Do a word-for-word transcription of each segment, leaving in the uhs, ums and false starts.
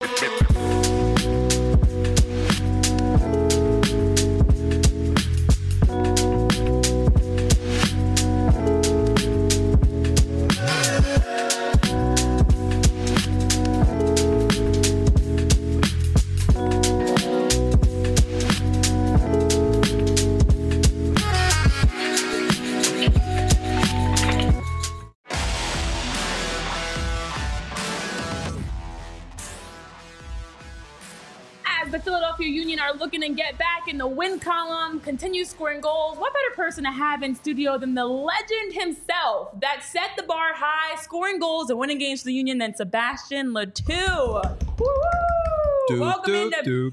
The Philadelphia Union are looking to get back in the win column, continue scoring goals. What better person to have in studio than the legend himself that set the bar high, scoring goals and winning games for the Union than Sebastien Le Toux. Woo! Welcome into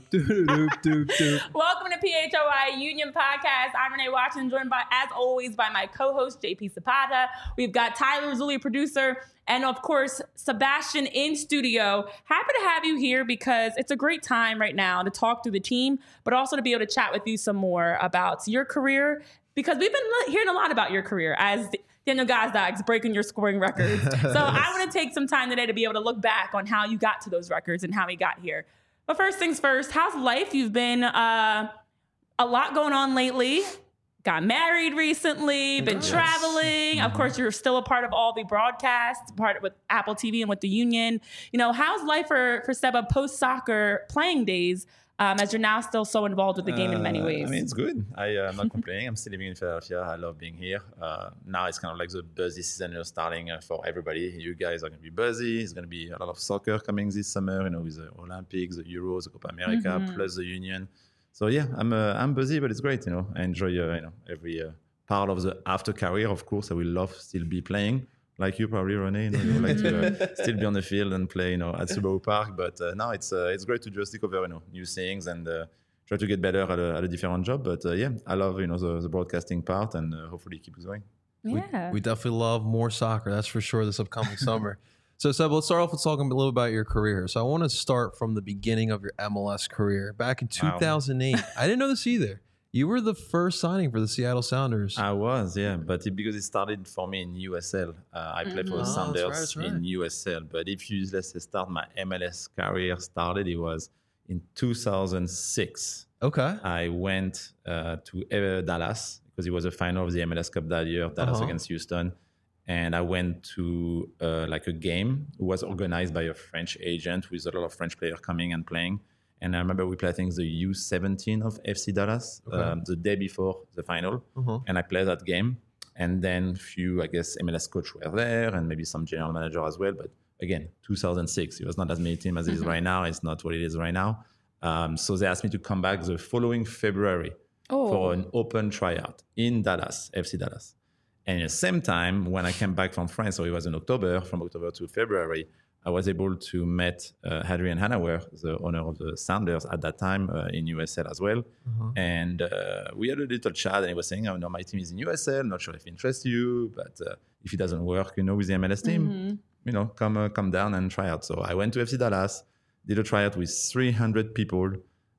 Welcome to P H O I Union Podcast. I'm Renee Watson, joined by, as always, by my co-host J P Zapata. We've got Tyler Zulli, producer, and of course, Sebastien in studio. Happy to have you here because it's a great time right now to talk through the team, but also to be able to chat with you some more about your career, because we've been hearing a lot about your career as Daniel Gazda's breaking your scoring records. So I want to take some time today to be able to look back on how you got to those records and how he got here. But first things first, how's life? You've been uh, a lot going on lately. Got married recently, been yes. traveling. Mm-hmm. Of course, you're still a part of all the broadcasts, part with Apple T V and with the Union. You know, how's life for, for Seba post-soccer playing days um, as you're now still so involved with the game uh, in many ways? I mean, it's good. I, uh, I'm not complaining. I'm still living in Philadelphia. I love being here. Uh, now it's kind of like the busy season is starting uh, for everybody. You guys are going to be busy. It's going to be a lot of soccer coming this summer, you know, with the Olympics, the Euros, the Copa America, mm-hmm. plus the Union. So yeah, I'm uh, I'm busy, but it's great. You know, I enjoy uh, you know every uh, part of the after career. Of course, I will love still be playing like you, probably Renee. You know, you like to uh, still be on the field and play, you know, at Subaru Park. But uh, now it's uh, it's great to just discover, you know, new things and uh, try to get better at a, at a different job. But uh, yeah, I love you know the, the broadcasting part, and uh, hopefully keep going. Yeah, we, we definitely love more soccer. That's for sure. This upcoming summer. So, Seb, let's start off with talking a little about your career. So I want to start from the beginning of your M L S career. Back in two thousand eight, wow. I didn't know this either. You were the first signing for the Seattle Sounders. I was, yeah, but it, because it started for me in U S L. Uh, I played mm-hmm. for the oh, Sounders that's right, that's right. in U S L. But if you, let's say, start my M L S career started, it was in two thousand six. Okay. I went uh, to uh, Dallas because it was a final of the M L S Cup that year, Dallas uh-huh. against Houston. And I went to uh, like a game. It was organized by a French agent with a lot of French players coming and playing. And I remember we played, I think, the U seventeen of F C Dallas okay. um, the day before the final. Uh-huh. And I played that game. And then a few, I guess, M L S coach were there and maybe some general manager as well. But again, two thousand six, it was not as many teams as it is right now. It's not what it is right now. Um, so they asked me to come back the following February oh. for an open tryout in Dallas, F C Dallas. And at the same time, when I came back from France, so it was in October, from October to February, I was able to meet uh, Adrian Hanauer, the owner of the Sounders at that time uh, in U S L as well. Uh-huh. And uh, we had a little chat, and he was saying, oh, no, my team is in U S L, not sure if it interests you, but uh, if it doesn't work, you know, with the M L S team, mm-hmm. you know, come uh, come down and try out. So I went to F C Dallas, did a tryout with three hundred people.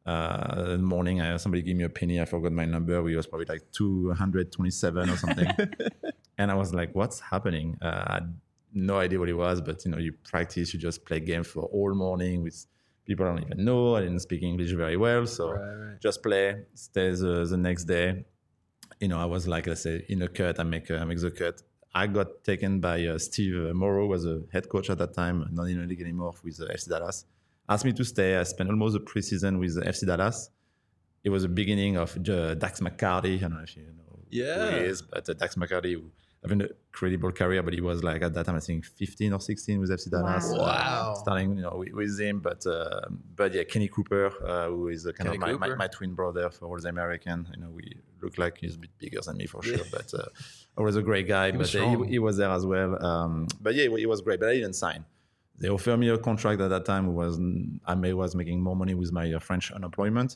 Uh, in the morning, I, somebody gave me a penny. I forgot my number. We was probably like two hundred twenty-seven or something. And I was like, what's happening? Uh, I had no idea what it was, but, you know, you practice, you just play games for all morning with people I don't even know. I didn't speak English very well. So right, right. just play, stay the, the next day. You know, I was like, let's say, in a cut, I make, uh, make the cut. I got taken by uh, Steve Morrow, was a head coach at that time, not in the league anymore with uh, F C Dallas. Asked me to stay. I spent almost a preseason with F C Dallas. It was the beginning of uh, Dax McCarty. I don't know if you know yeah. who he is, but uh, Dax McCarty, having a incredible career, but he was like at that time, I think fifteen or sixteen with F C Dallas. Wow. wow. Starting, you know, with, with him. But uh, but yeah, Kenny Cooper, uh, who is uh, kind Kenny of my, my, my twin brother for all the American. You know, we look like he's a bit bigger than me for sure, but uh, always a great guy. He but uh, he, he was there as well. Um, but yeah, he was great, but I didn't sign. They offered me a contract at that time. Was I may was making more money with my uh, French unemployment,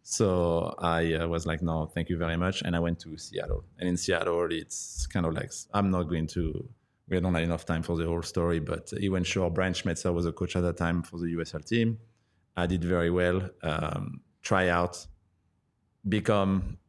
so I uh, was like, no, thank you very much, and I went to Seattle. And in Seattle, it's kind of like I'm not going to. We don't have enough time for the whole story, but he went sure. Brian Schmetzer was a coach at that time for the U S L team. I did very well. Um, try out, become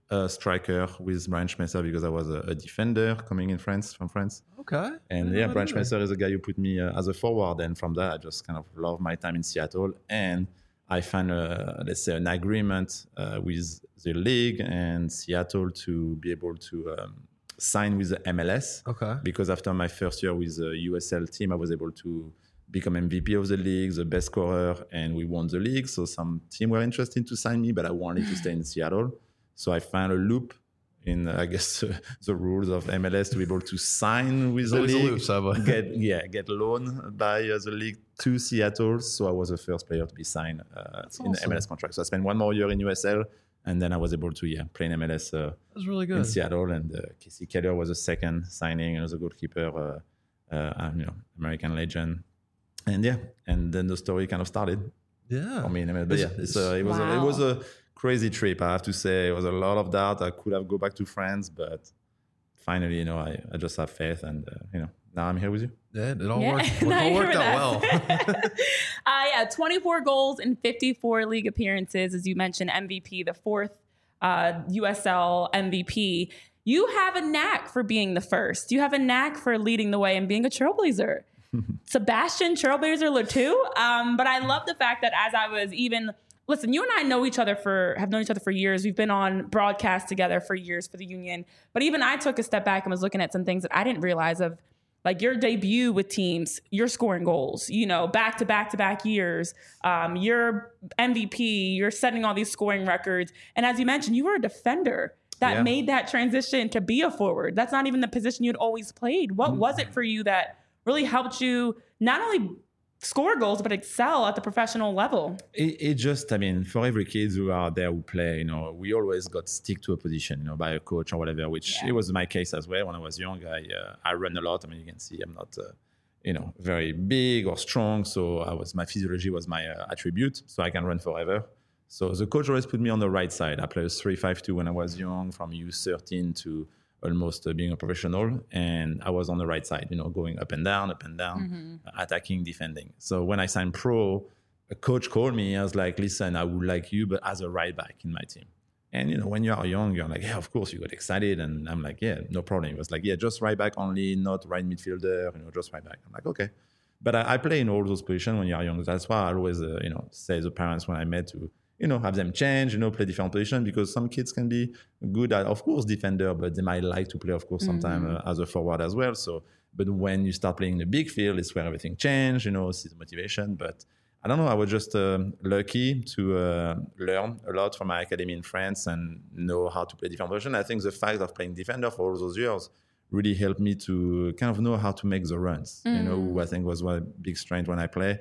a striker with Brian Schmetzer because I was a, a defender coming in France from France. Okay. And yeah, Brian Schmetzer is a guy who put me uh, as a forward. And from that, I just kind of love my time in Seattle. And I found, a, let's say, an agreement uh, with the league and Seattle to be able to um, sign with the M L S. Okay. Because after my first year with the U S L team, I was able to become M V P of the league, the best scorer, and we won the league. So some team were interested to sign me, but I wanted to stay in Seattle. So I found a loop in, uh, I guess, uh, the rules of M L S to be able to sign with the league, loop, get yeah, get loaned by uh, the league to Seattle. So I was the first player to be signed uh, in awesome. the M L S contract. So I spent one more year in U S L, and then I was able to yeah play in M L S. Uh, That's really good. In Seattle, and uh, Casey Keller was the second signing, and was a goalkeeper, uh, uh, you know, American legend. And yeah, and then the story kind of started. Yeah. For me, but yeah, it's, uh, it was wow. a, it was a crazy trip. I have to say, it was a lot of doubt. I could have go back to France, but finally, you know, I, I just have faith, and uh, you know, now I'm here with you. Yeah, it all Yeah. worked. It No, all you worked hear out that. well. uh, yeah, twenty-four goals in fifty-four league appearances, as you mentioned, M V P, the fourth uh, U S L M V P. You have a knack for being the first. You have a knack for leading the way and being a trailblazer. Sebastian Trailblazer Le too. Um, but I love the fact that as I was even listen, you and I know each other for have known each other for years. We've been on broadcast together for years for the Union. But even I took a step back and was looking at some things that I didn't realize of, like your debut with teams, you're scoring goals, you know, back to back to back years. Um, you're M V P, you're setting all these scoring records. And as you mentioned, you were a defender that Yeah. made that transition to be a forward. That's not even the position you'd always played. What mm-hmm. was it for you that really helped you not only score goals, but excel at the professional level? It, it just, I mean, for every kid who are there who play, you know, we always got stick to a position, you know, by a coach or whatever, which yeah. it was my case as well. When I was young, I uh, I run a lot. I mean, you can see I'm not, uh, you know, very big or strong. So I was, my physiology was my uh, attribute. So I can run forever. So the coach always put me on the right side. I played a three five two when I was young, from U thirteen to almost uh, being a professional, and I was on the right side, you know, going up and down, up and down, mm-hmm. uh, attacking, defending. So when I signed pro, a coach called me. I was like, listen, I would like you, but as a right back in my team. And, you know, when you are young, you're like, yeah, of course, you got excited. And I'm like, yeah, no problem. It was like, yeah, just right back only, not right midfielder, you know, just right back. I'm like, okay. But I, I play in all those positions when you're young. That's why I always, uh, you know, say to the parents when I met to, you know, have them change, you know, play different positions, because some kids can be good at, of course, defender, but they might like to play, of course, sometimes mm-hmm. uh, as a forward as well. So, but when you start playing in the big field, it's where everything changes, you know, see the motivation. But I don't know, I was just uh, lucky to uh, learn a lot from my academy in France and know how to play different positions. I think the fact of playing defender for all those years really helped me to kind of know how to make the runs, mm-hmm. you know, who I think was one big strength when I play,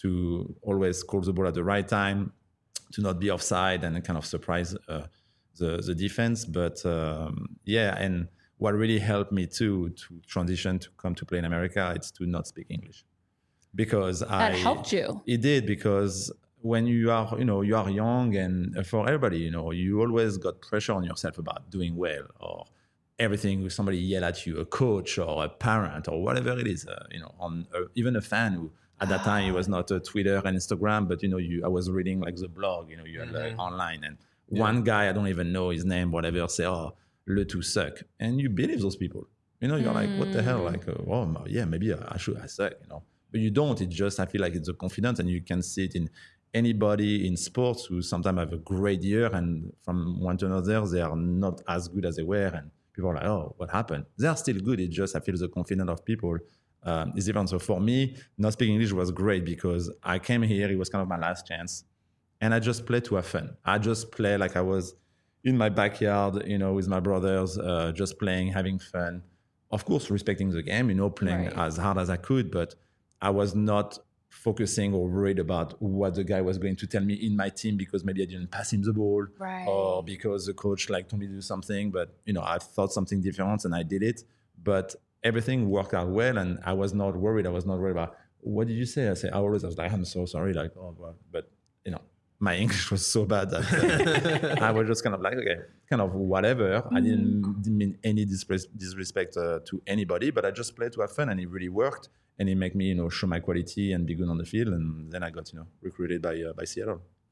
to always call the ball at the right time, to not be offside and kind of surprise uh, the, the defense. But um, yeah, and what really helped me too to transition to come to play in America, it's to not speak English. Because that I... That helped you. It did, because when you are, you know, you are young, and for everybody, you know, you always got pressure on yourself about doing well, or everything, somebody yell at you, a coach or a parent or whatever it is, uh, you know, on uh, even a fan who, at that time, it was not a Twitter and Instagram, but, you know, you I was reading like the blog, you know, you had like, mm-hmm. online, and yeah. one guy, I don't even know his name, whatever, say, oh, Le Tout suck. And you believe those people. You know, you're mm. like, what the hell? Like, uh, oh, yeah, maybe I should, I suck, you know. But you don't. It's just, I feel like it's a confidence, and you can see it in anybody in sports who sometimes have a great year, and from one to another, they are not as good as they were. And people are like, oh, what happened? They are still good. It's just, I feel the confidence of people Um, is different. So for me, not speaking English was great, because I came here, it was kind of my last chance, and I just played to have fun. I just play like I was in my backyard, you know, with my brothers, uh, just playing, having fun. Of course, respecting the game, you know, playing right. as hard as I could, but I was not focusing or worried about what the guy was going to tell me in my team, because maybe I didn't pass him the ball, right. or because the coach like told me to do something, but, you know, I thought something different and I did it. But everything worked out well, and I was not worried. I was not worried about, what did you say? I say, I always I was like, I'm so sorry. Like, oh, well, but, you know, my English was so bad that uh, I was just kind of like, okay, kind of whatever. Mm. I didn't, didn't mean any disres- disrespect uh, to anybody, but I just played to have fun, and it really worked. And it made me, you know, show my quality and be good on the field. And then I got, you know, recruited by uh, by Seattle.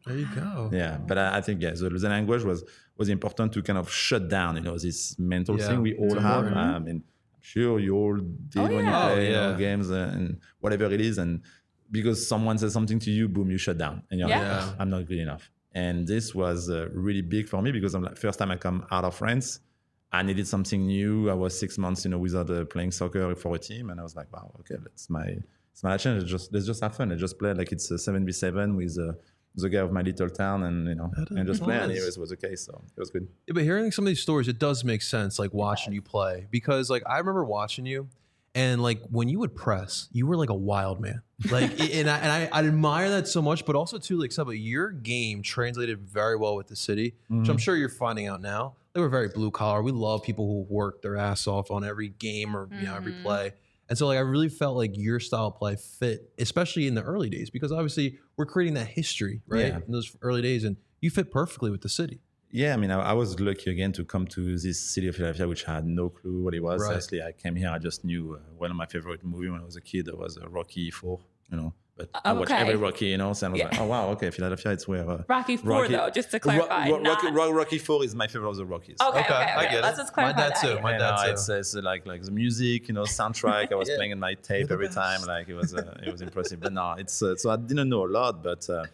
There you go. Yeah, but I, I think yeah, the, the language was was important to kind of shut down, you know, this mental Yeah. thing we all have. important. I mean, I'm sure you all did Oh, when yeah. you play Oh, you know, yeah. games uh, and whatever it is, and because someone says something to you, boom, you shut down, and you're Yeah. like, "Oh, I'm not good enough." And this was uh, really big for me because I'm like, first time I come out of France, I needed something new. I was six months, you know, without uh, playing soccer for a team, and I was like, wow, okay, that's my it's my challenge. Let's just let's just have fun. I just play like it's a seven v seven with uh, the guy of my little town, and you know, That and just is play. And nice. it was, was okay, so it was good. Yeah, but hearing some of these stories, it does make sense, like watching you play. Because like I remember watching you, and like when you would press, you were like a wild man. Like, and I and I, I admire that so much. But also too, like, Seba, your game translated very well with the city, which I'm sure you're finding out now. They were very blue collar. We love people who work their ass off on every game or you know every play. And so like I really felt like your style of play fit, especially in the early days, because obviously we're creating that history, right? Yeah. In those early days, and you fit perfectly with the city. Yeah, I mean, I, I was lucky again to come to this city of Philadelphia, which I had no clue what it was. Right. Honestly, I came here, I just knew uh, one of my favorite movies when I was a kid was uh, Rocky Four, you know. But I watched Okay. every Rocky, you know, so I was Yeah. like, oh wow, okay, Philadelphia, it's where uh, Rocky Four, Rocky- though, just to clarify. Ro- Ro- not- Rocky, Ro- Rocky Four is my favorite of the Rockies. Okay, okay, Okay, okay. I get it. Let's just My clarify dad that. too. yeah. My You dad know, too. it's, it's like like the music, you know, soundtrack. I was Yeah. playing in my You're tape the every best. time. Like it was, uh, it was impressive. But no, it's uh, so I didn't know a lot, but uh,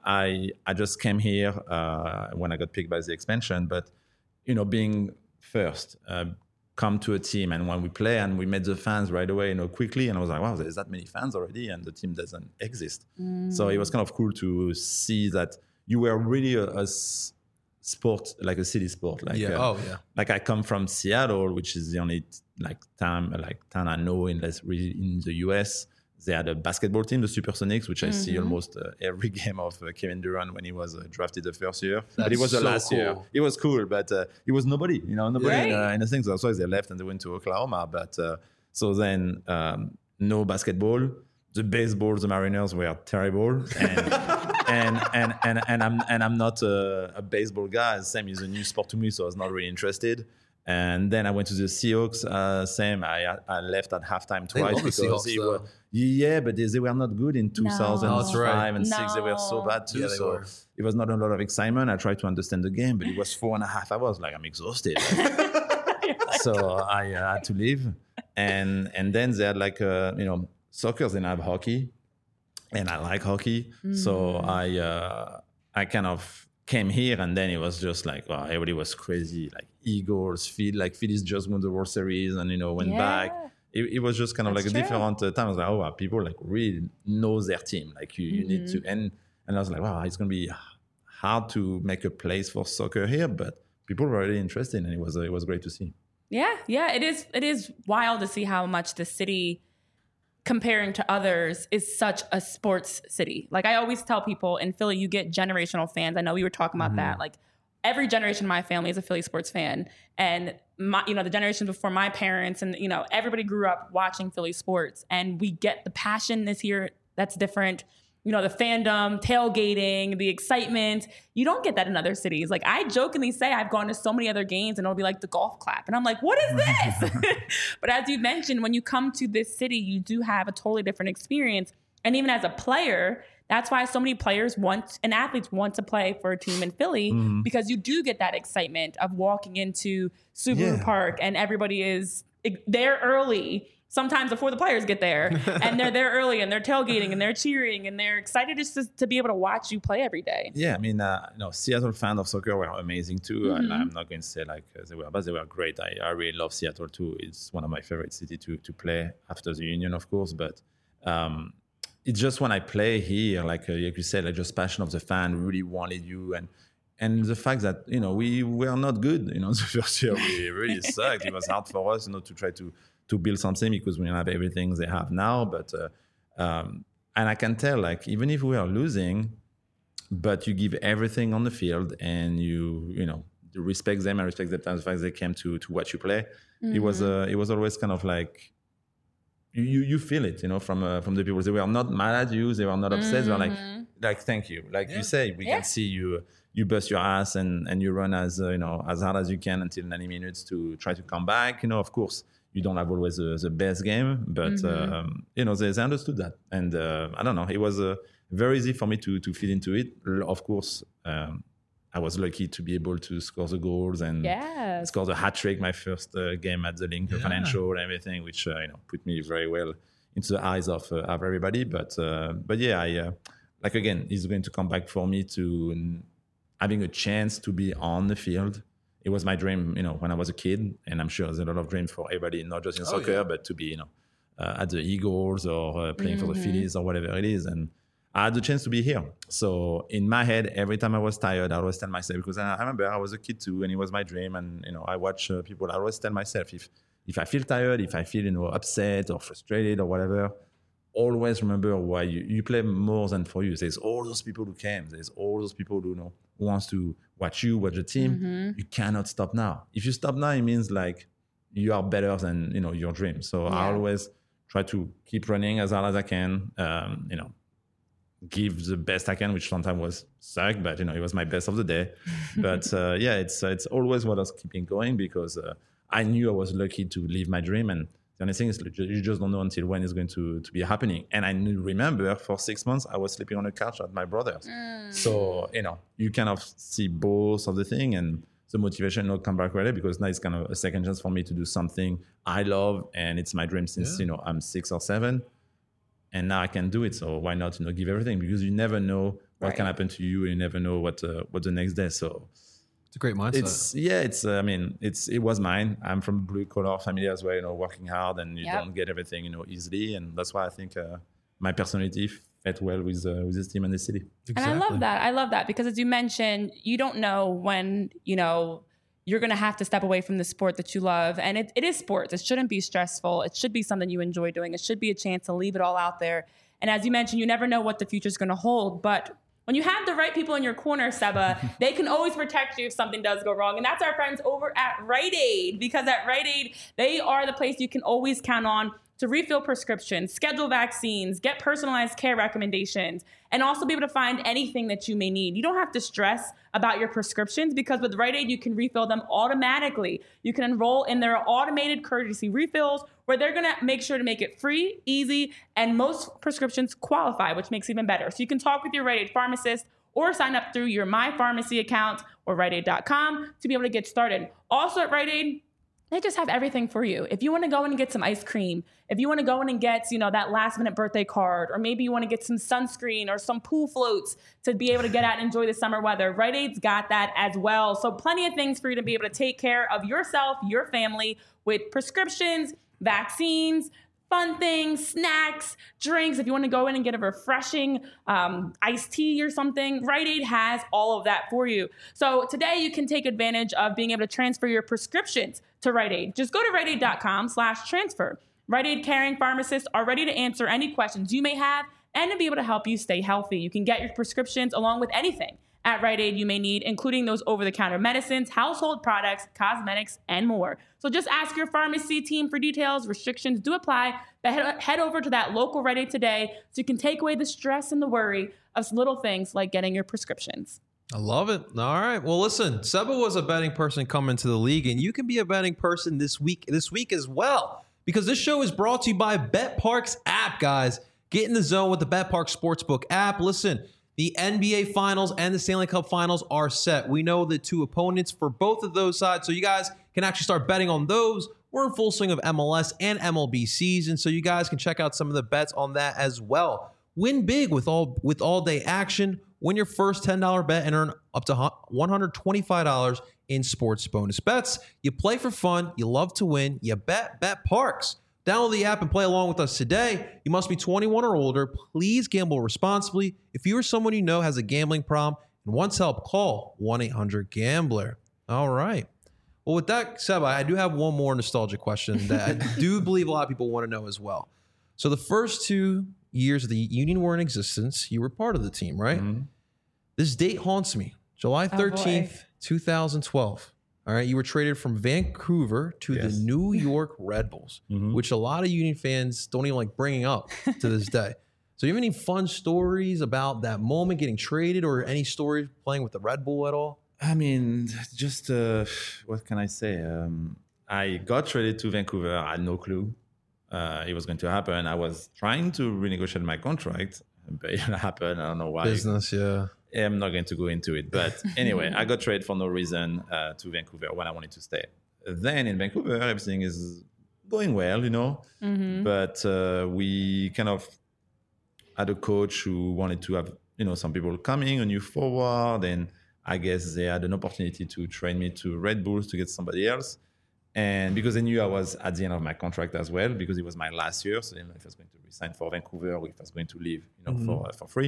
I I just came here uh, when I got picked by the expansion. But you know, being first, uh, come to a team, and when we play, and we met the fans right away, you know, quickly, and I was like, wow, there's that many fans already, and the team doesn't exist. So it was kind of cool to see that you were really a, a s- sport, like a city sport, like Yeah. uh, Oh yeah. like I come from Seattle, which is the only like town like town I know in this, in the U S. They had a basketball team, the Supersonics, which I see almost uh, every game of uh, Kevin Durant when he was uh, drafted the first year. but it That's was the so last year. cool. It was cool, but uh, it was nobody, you know, nobody in, uh, Right. in the things. That's why they left and they went to Oklahoma. But uh, so then um, no basketball. The baseball, the Mariners were terrible, and and, and and and I'm and I'm not a, a baseball guy. Same is a new sport to me, so I was not really interested. And then I went to the Seahawks. Uh, same, I I left at halftime They twice love the because Seahawks, they though. were yeah, but they, they were not good in two thousand five That's right. and six. They were so No. bad too. Yeah, they so were. it was not a lot of excitement. I tried to understand the game, but it was four and a half hours. Like I'm exhausted. So I uh, had to leave, and and then they had like uh, you know soccer. They have hockey, and I like hockey. So I uh, I kind of came here, and then it was just like wow, everybody was crazy. Like Eagles, Phil, like Phillies just won the World Series, and you know went Yeah. back. It, it was just kind of That's like a true. different uh, time. I was like, oh wow, people like really know their team. Like you, you need to, and and I was like, wow, it's gonna be hard to make a place for soccer here, but people were really interested, and it was uh, it was great to see. Yeah, yeah, it is. It is wild to see how much the city, comparing to others, is such a sports city. Like I always tell people in Philly, you get generational fans. I know we were talking about that. Like every generation of my family is a Philly sports fan, and my, you know, the generation before my parents, and you know, everybody grew up watching Philly sports, and we get the passion this year. That's different. You know, the fandom, tailgating, the excitement. You don't get that in other cities. Like I jokingly say I've gone to so many other games and it'll be like the golf clap. And I'm like, what is this? But as you mentioned, when you come to this city, you do have a totally different experience. And even as a player, that's why so many players want and athletes want to play for a team in Philly because you do get that excitement of walking into Subaru Yeah. Park and everybody is there early. Sometimes before the players get there, and they're there early, and they're tailgating, and they're cheering, and they're excited just to, to be able to watch you play every day. Yeah, I mean, uh, you know, Seattle fans of soccer were amazing too. Mm-hmm. And I'm not going to say like uh, they were, but they were great. I, I really love Seattle too. It's one of my favorite cities to to play after the Union, of course. But um, it's just when I play here, like uh, like you said, like just passion of the fan really wanted you, and and the fact that you know we were not good. You know, the first year we really sucked. It was hard for us, you know, to try to. to build something because we don't have everything they have now. But uh, um, and I can tell, like even if we are losing, but you give everything on the field and you you know you respect them and respect the time the fact they came to to watch you play. It was uh, it was always kind of like you you, you feel it, you know, from uh, from the people. They were not mad at you. They were not upset. They were like like thank you, like you say, we Yeah. can see you. You bust your ass and, and you run as uh, you know as hard as you can until ninety minutes to try to come back. You know, of course, you don't have always the, the best game, but um, you know they, they understood that, and uh, I don't know. It was a very easy for me to to fit into it. Of course, um, I was lucky to be able to score the goals and yes. score the hat trick my first uh, game at the Link yeah. Financial and everything, which uh, you know put me very well into the eyes of uh, of everybody. But uh, but yeah, I uh, like again, it's going to come back for me to having a chance to be on the field. It was my dream, you know, when I was a kid, and I'm sure there's a lot of dreams for everybody, not just in oh, soccer, yeah. but to be, you know, uh, at the Eagles or uh, playing mm-hmm. for the Phillies or whatever it is. And I had the chance to be here. So in my head, every time I was tired, I always tell myself, because I, I remember I was a kid too, and it was my dream. And, you know, I watch uh, people, I always tell myself, if if I feel tired, if I feel, you know, upset or frustrated or whatever, always remember why you, you play more than for you. There's all those people who came. There's all those people who, you know, who wants to watch you, watch the team. Mm-hmm. You cannot stop now. If you stop now, it means like you are better than, you know, your dream. So yeah. I always try to keep running as hard as I can, um, you know, give the best I can, which sometimes was suck, but, you know, it was my best of the day. But uh, yeah, it's uh, it's always what I was keeping going because uh, I knew I was lucky to live my dream. And the only thing is you just don't know until when it's going to, to be happening. And I remember for six months, I was sleeping on a couch at my brother's. Mm. So, you know, you kind of see both of the thing and the motivation will come back right away because now it's kind of a second chance for me to do something I love. And it's my dream since, yeah. you know, I'm six or seven. And now I can do it. So why not, you know, give everything? Because you never know what right. can happen to you. You never know what uh, what the next day. So it's a great mindset. It's yeah. It's uh, I mean, it's it was mine. I'm from a blue collar family as well. You know, working hard and you yep. don't get everything, you know, easily. And that's why I think uh, my personality fit well with uh, with this team and the city. Exactly. And I love that. I love that because as you mentioned, you don't know when you know you're going to have to step away from the sport that you love. And it, it is sports. It shouldn't be stressful. It should be something you enjoy doing. It should be a chance to leave it all out there. And as you mentioned, you never know what the future is going to hold. But when you have the right people in your corner, Seba, they can always protect you if something does go wrong. And that's our friends over at Rite Aid. Because at Rite Aid, they are the place you can always count on to refill prescriptions, schedule vaccines, get personalized care recommendations, and also be able to find anything that you may need. You don't have to stress about your prescriptions because with Rite Aid, you can refill them automatically. You can enroll in their automated courtesy refills where they're going to make sure to make it free, easy, and most prescriptions qualify, which makes it even better. So you can talk with your Rite Aid pharmacist or sign up through your My Pharmacy account or Rite Aid dot com to be able to get started. Also at Rite Aid, they just have everything for you. If you want to go in and get some ice cream, if you want to go in and get, you know, that last minute birthday card, or maybe you want to get some sunscreen or some pool floats to be able to get out and enjoy the summer weather, Rite Aid's got that as well. So plenty of things for you to be able to take care of yourself, your family with prescriptions, vaccines, fun things, snacks, drinks. If you want to go in and get a refreshing um, iced tea or something, Rite Aid has all of that for you. So today you can take advantage of being able to transfer your prescriptions to Rite Aid. Just go to Rite Aid dot com slash transfer. Rite Aid caring pharmacists are ready to answer any questions you may have and to be able to help you stay healthy. You can get your prescriptions along with anything at Rite Aid you may need, including those over-the-counter medicines, household products, cosmetics, and more. So just ask your pharmacy team for details. Restrictions do apply, but head, head over to that local Rite Aid today so you can take away the stress and the worry of little things like getting your prescriptions. I love it. All right. Well, listen, Seba was a betting person coming to the league, and you can be a betting person this week, this week as well, because this show is brought to you by BetParx app, guys. Get in the zone with the BetParx Sportsbook app. Listen, the N B A Finals and the Stanley Cup Finals are set. We know the two opponents for both of those sides, so you guys can actually start betting on those. We're in full swing of M L S and M L B season, so you guys can check out some of the bets on that as well. Win big with all with all-day action. Win your first ten dollars bet and earn up to one hundred twenty-five dollars in sports bonus bets. You play for fun. You love to win. You bet BetParx. Download the app and play along with us today. You must be twenty-one or older. Please gamble responsibly. If you or someone you know has a gambling problem and wants help, call one eight hundred gambler. All right. Well, with that, Seba, I do have one more nostalgic question that I do believe a lot of people want to know as well. So the first two years the Union were in existence, you were part of the team, right? Mm-hmm. This date haunts me. July thirteenth, oh twenty twelve. All right, you were traded from Vancouver to yes. the New York Red Bulls, mm-hmm. which a lot of Union fans don't even like bringing up to this day. So, you have any fun stories about that moment getting traded, or any stories playing with the Red Bull at all? I mean, just uh, what can I say? Um, I got traded to Vancouver. I had no clue uh, it was going to happen. I was trying to renegotiate my contract. but it happened. I don't know why. Business, yeah. I'm not going to go into it. But anyway, I got traded for no reason uh, to Vancouver when I wanted to stay. Then in Vancouver, everything is going well, you know. Mm-hmm. But uh, we kind of had a coach who wanted to have, you know, some people coming, a new forward. And I guess they had an opportunity to train me to Red Bulls to get somebody else. And because they knew I was at the end of my contract as well, because it was my last year. So they didn't know if I was going to resign for Vancouver or if I was going to leave, you know, mm-hmm. for, uh, for free.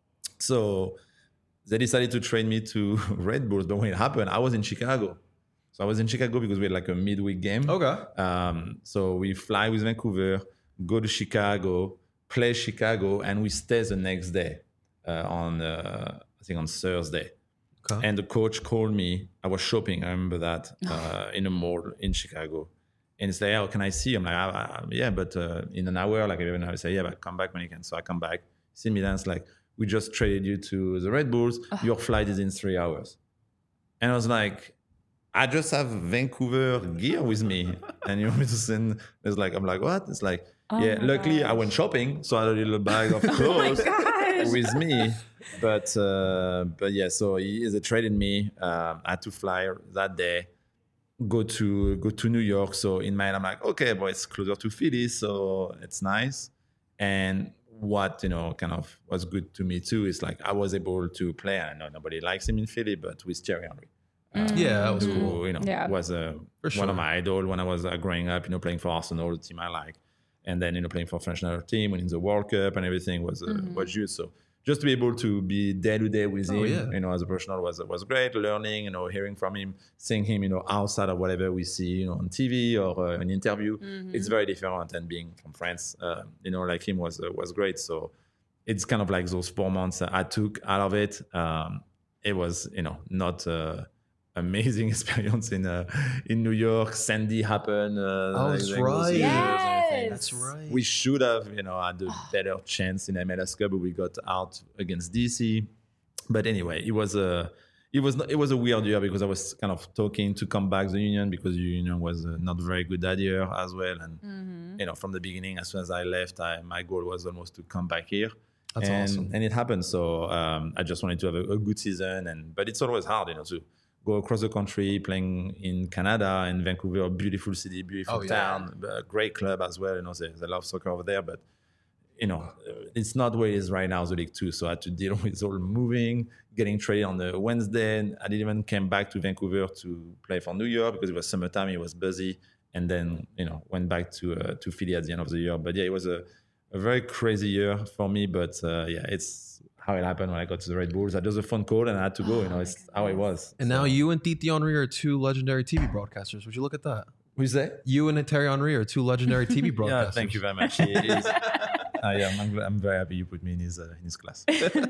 So they decided to train me to Red Bulls. But when it happened, I was in Chicago. So I was in Chicago because we had like a midweek game. Okay. Um, so we fly with Vancouver, go to Chicago, play Chicago, and we stay the next day uh, on, uh, I think on Thursday. Okay. And the coach called me. I was shopping. I remember that uh, in a mall in Chicago. And it's like, oh, can I see you? I'm like, ah, ah, yeah, but uh, in an hour, like even I say, yeah, but come back when you can. So I come back, see me dance like, we just traded you to the Red Bulls. Oh. Your flight is in three hours. And I was like, I just have Vancouver gear with me. And you want me to send, it's like, I'm like, what? It's like, oh yeah, luckily gosh. I went shopping. So I had a little bag of clothes oh with me. But, uh, but yeah, so he, they traded me. Um, I had to fly that day, go to, go to New York. So in my mind, I'm like, okay, boy, it's closer to Philly. So it's nice. And what, you know, kind of was good to me too is like I was able to play. I know nobody likes him in Philly, but with Thierry Henry. Uh, yeah, that was who, cool. You know, yeah. was uh, sure. one of my idols when I was uh, growing up. You know, playing for Arsenal, the team I like, and then you know playing for French national team, winning the World Cup and everything was uh, mm-hmm. was huge. So just to be able to be day to day with oh, him, yeah. you know, as a professional was was great. Learning, you know, hearing from him, seeing him, you know, outside of whatever we see, you know, on T V or uh, an interview, mm-hmm. it's very different. And being from France, uh, you know, like him was uh, was great. So it's kind of like those four months I took out of it. Um, it was, you know, not. Uh, amazing experience in uh, in New York. Sandy happened. Uh, oh, that's like, right. Yes. That's right. We should have, you know, had a better chance in M L S Cup, but we got out against D C. But anyway, it was a it was not, it was a weird year because I was kind of talking to come back the Union because the Union was uh, not very good that year as well. And mm-hmm. you know, from the beginning, as soon as I left, I, my goal was almost to come back here. That's and, awesome. And it happened. So um, I just wanted to have a, a good season. And but it's always hard, you know, to go across the country, playing in Canada and Vancouver, beautiful city, beautiful oh, town, yeah. a great club as well. You know, they, they love soccer over there, but you know, it's not where it is right now, the League Two. So I had to deal with all moving, getting traded on the Wednesday. I didn't even came back to Vancouver to play for New York because it was summertime, it was busy, and then you know went back to uh, to Philly at the end of the year. But yeah, it was a, a very crazy year for me. But uh, yeah, it's how it happened when I got to the Red Bulls. I just a phone call and I had to go. You know, it's how it was. And so. Now you and Titi Henry are two legendary T V broadcasters. Would you look at that? Who's that? You and Thierry Henry are two legendary T V broadcasters. Yeah, thank you very much. It is. I am. I'm, I'm very happy you put me in his uh, in his class.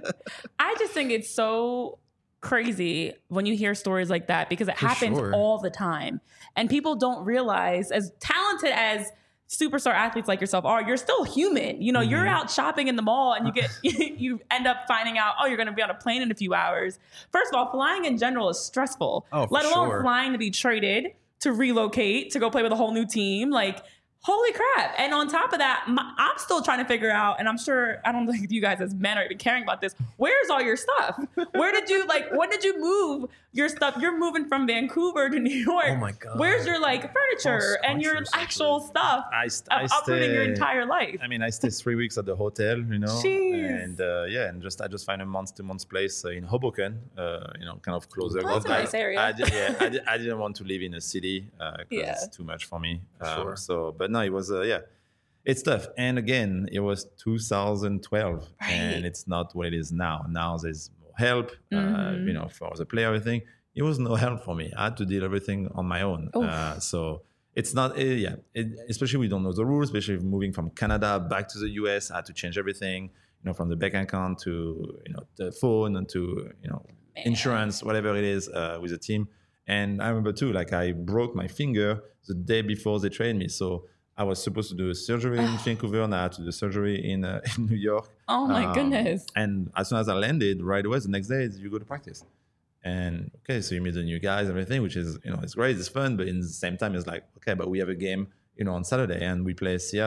I just think it's so crazy when you hear stories like that because it For happens sure. all the time, and people don't realize, as talented as superstar athletes like yourself are, you're still human. You know, mm-hmm. you're out shopping in the mall and you get you end up finding out, oh, you're going to be on a plane in a few hours. First of all, flying in general is stressful. Oh, let alone sure. flying to be traded, to relocate, to go play with a whole new team. Like, holy crap. And on top of that, my, I'm still trying to figure out, and I'm sure, I don't think you guys as men are even caring about this. Where's all your stuff? Where did you, like, when did you move your stuff? You're moving from Vancouver to New York. Oh my God. Where's your, like, furniture and your actual stuff I, st- of I uprooting stay, your entire life? I mean, I stayed three weeks at the hotel, you know. Jeez. And uh, yeah, and just I just find a month to month place uh, in Hoboken, uh, you know, kind of closer. Oh, that's a nice area. I, did, yeah, I, did, I didn't want to live in a city because uh, yeah. it's too much for me. Um, sure. So, but no, it was, uh, yeah. It's tough. And again, it was two thousand twelve right. and it's not what it is now. Now there's more help, mm-hmm. uh, you know, for the player, everything. It was no help for me. I had to deal everything on my own. Uh, so it's not, uh, yeah, it, especially we don't know the rules, especially moving from Canada back to the U S, I had to change everything, you know, from the bank account to, you know, the phone and to, you know, Man. insurance, whatever it is uh, with the team. And I remember too, like I broke my finger the day before they trained me. So I was supposed to do a surgery in Vancouver, and I had to do surgery in, uh, in New York. Oh my um, goodness! And as soon as I landed, right away, the next day you go to practice, and okay, so you meet the new guys, everything, which is you know it's great, it's fun, but in the same time, it's like okay, but we have a game, you know, on Saturday, and we play Seattle.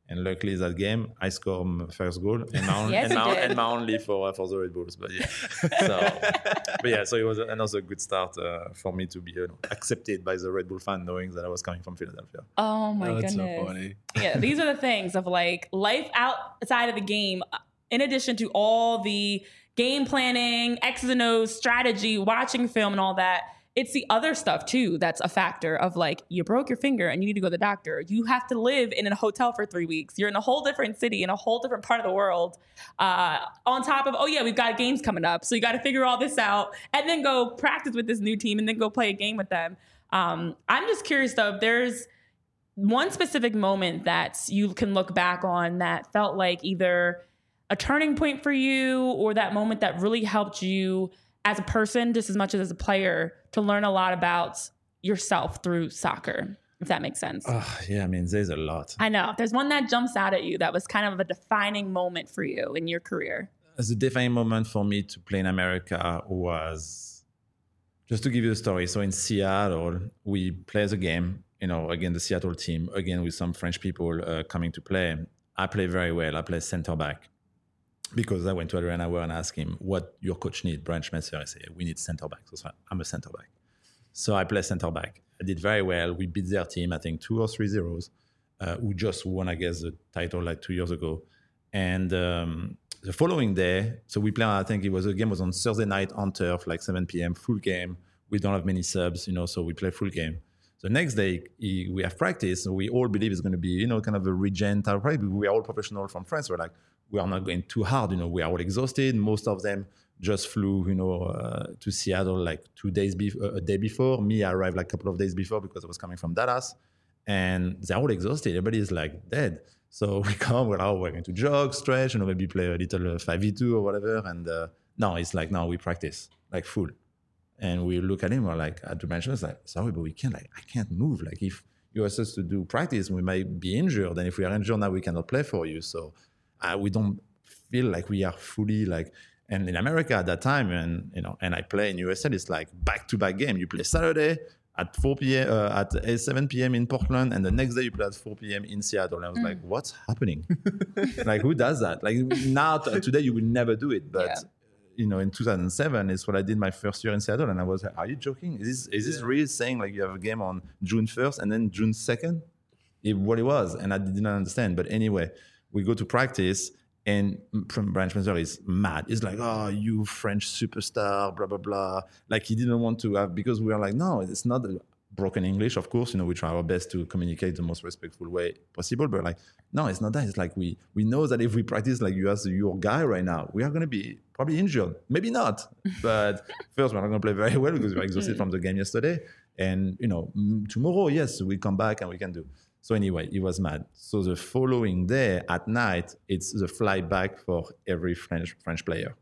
And luckily that game, I scored my first goal and my, Yes, and you my, did. and my only for uh, for the Red Bulls. But yeah, so but yeah, so it was another good start uh, for me to be you know, accepted by the Red Bull fan, knowing that I was coming from Philadelphia. Oh my Oh, that's goodness. so funny. Yeah, these are the things of like life outside of the game, in addition to all the game planning, X's and O's, strategy, watching film and all that. It's the other stuff too that's a factor of like, you broke your finger and you need to go to the doctor. You have to live in a hotel for three weeks. You're in a whole different city, in a whole different part of the world. Uh, on top of, oh yeah, we've got games coming up. So you got to figure all this out and then go practice with this new team and then go play a game with them. Um, I'm just curious though, if there's one specific moment that you can look back on that felt like either a turning point for you or that moment that really helped you as a person, just as much as as a player, to learn a lot about yourself through soccer, if that makes sense. Uh, yeah, I mean, there's a lot. I know. If there's one that jumps out at you that was kind of a defining moment for you in your career. The defining moment for me to play in America was, just to give you a story. So in Seattle, we play the game, you know, again, the Seattle team, again, with some French people uh, coming to play. I play very well. I play center back. Because I went to Adrian Auer and asked him what your coach need. Brian Schmetzer, I said, we need center back. So I'm a center back. So I play center back. I did very well. We beat their team, I think two or three zeros, uh, who just won, I guess, the title like two years ago. And um, the following day, so we play, I think it was, the game was on Thursday night on turf, like seven p.m., full game. We don't have many subs, you know, so we play full game. The next day, he, we have practice. So we all believe it's going to be, you know, kind of a regen type of practice. We are all professional from France. We're like, we are not going too hard. You know, we are all exhausted. Most of them just flew, you know, uh, to Seattle like two days, be- a day before. Me, I arrived like a couple of days before because I was coming from Dallas. And they're all exhausted. Everybody is like dead. So we come, we're, oh, we're going to jog, stretch, you know, maybe play a little five v two or whatever. And uh, no, it's like, no, we practice like full. And we look at him, we're like, at the bench, it's like, sorry, but we can't, like, I can't move. Like, if you ask us to do practice, we might be injured. And if we are injured now, we cannot play for you. So uh, we don't feel like we are fully, like, and in America at that time, and, you know, and I play in U S L, it's like back-to-back game. You play Saturday at four p.m., uh, at seven p.m. in Portland, and the next day you play at four p.m. in Seattle. And I was mm. like, what's happening? Like, who does that? Like, now, t- today, you will never do it. But, yeah. you know, in two thousand seven is what I did my first year in Seattle. And I was like, are you joking? Is this, is this yeah. really saying like you have a game on June first and then June second? It, what it was. And I did not understand. But anyway, we go to practice and from Brian Schmetzer is mad. He's like, oh, you French superstar, blah, blah, blah. Like he didn't want to have, because we are like, no, it's not a broken English. Of course, you know, we try our best to communicate the most respectful way possible. But like, no, it's not that. It's like we we know that if we practice like you as your guy right now, we are going to be probably injured. Maybe not. But first, we're not going to play very well because we were exhausted from the game yesterday. And, you know, tomorrow, yes, we come back and we can do. So anyway, he was mad. So the following day at night, it's the flight back for every French French player.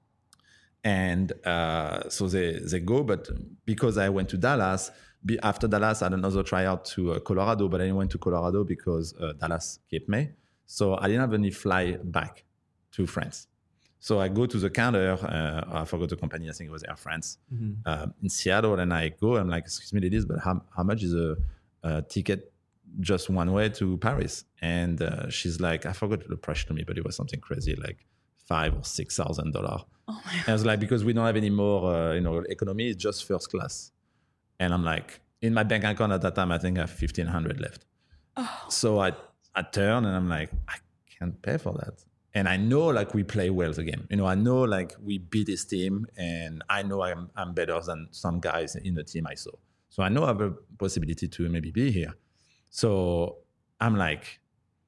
And uh, so they, they go, but because I went to Dallas, be, after Dallas, I had another tryout to uh, Colorado, but I didn't went to Colorado because uh, Dallas kept me. So I didn't have any fly back to France. So I go to the counter, uh, I forgot the company, I think it was Air France, mm-hmm. uh, in Seattle, and I go, I'm like, excuse me, ladies, but how, how much is a, a ticket just one way to Paris? And uh, she's like, I forgot the price to me, but it was something crazy, like five or six thousand dollars. Oh my God. And I was like, because we don't have any more, uh, you know, economy, it's just first class. And I'm like, in my bank account at that time, I think I have fifteen hundred left. Oh. So I, I turn and I'm like, I can't pay for that. And I know like we play well the game. You know, I know like we beat this team, and I know I'm I'm better than some guys in the team I saw. So I know I have a possibility to maybe be here. So I'm like,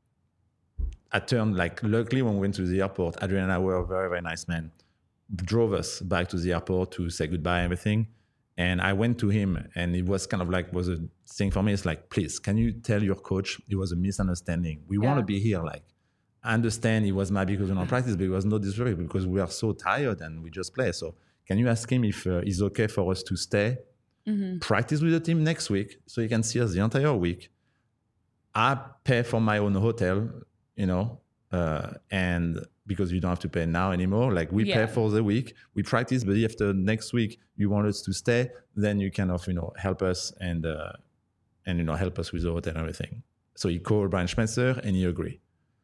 I turned like, luckily when we went to the airport, Adrian Auer, a very, very nice man, drove us back to the airport to say goodbye and everything. And I went to him, and it was kind of like, was a thing for me. It's like, please, can you tell your coach it was a misunderstanding? We yeah. want to be here. Like, I understand he was mad because we don't practice, but it was not disrespectful because we are so tired and we just play. So can you ask him if uh, it's okay for us to stay, mm-hmm. practice with the team next week so he can see us the entire week? I pay for my own hotel, you know, uh, and because you don't have to pay now anymore. Like we yeah. pay for the week, we practice, but if the next week you want us to stay, then you kind of, you know, help us and, uh, and, you know, help us with the hotel and everything. So he called Brian Schmetzer and he agreed.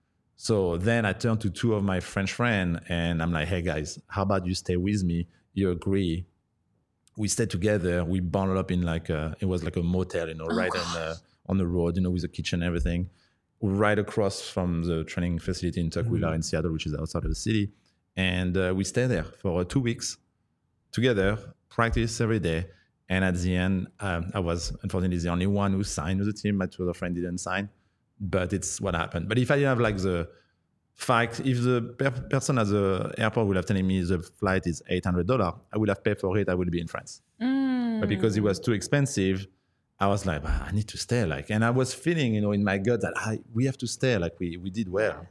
So then I turned to two of my French friends and I'm like, hey guys, how about you stay with me? You agree. We stayed together. We bundled up in like a, it was like a motel, you know, oh, right on the, on the road, you know, with a kitchen and everything, right across from the training facility in Tukwila mm-hmm. in Seattle, which is outside of the city. And uh, we stayed there for two weeks together, practice every day. And at the end, um, I was unfortunately the only one who signed with the team. My two other friends didn't sign, but it's what happened. But if I didn't have like the fact, if the per- person at the airport would have telling me the flight is eight hundred dollars, I would have paid for it. I would be in France. Mm. But because it was too expensive, I was like, I need to stay. Like, and I was feeling, you know, in my gut that I, we have to stay. Like we, we did well.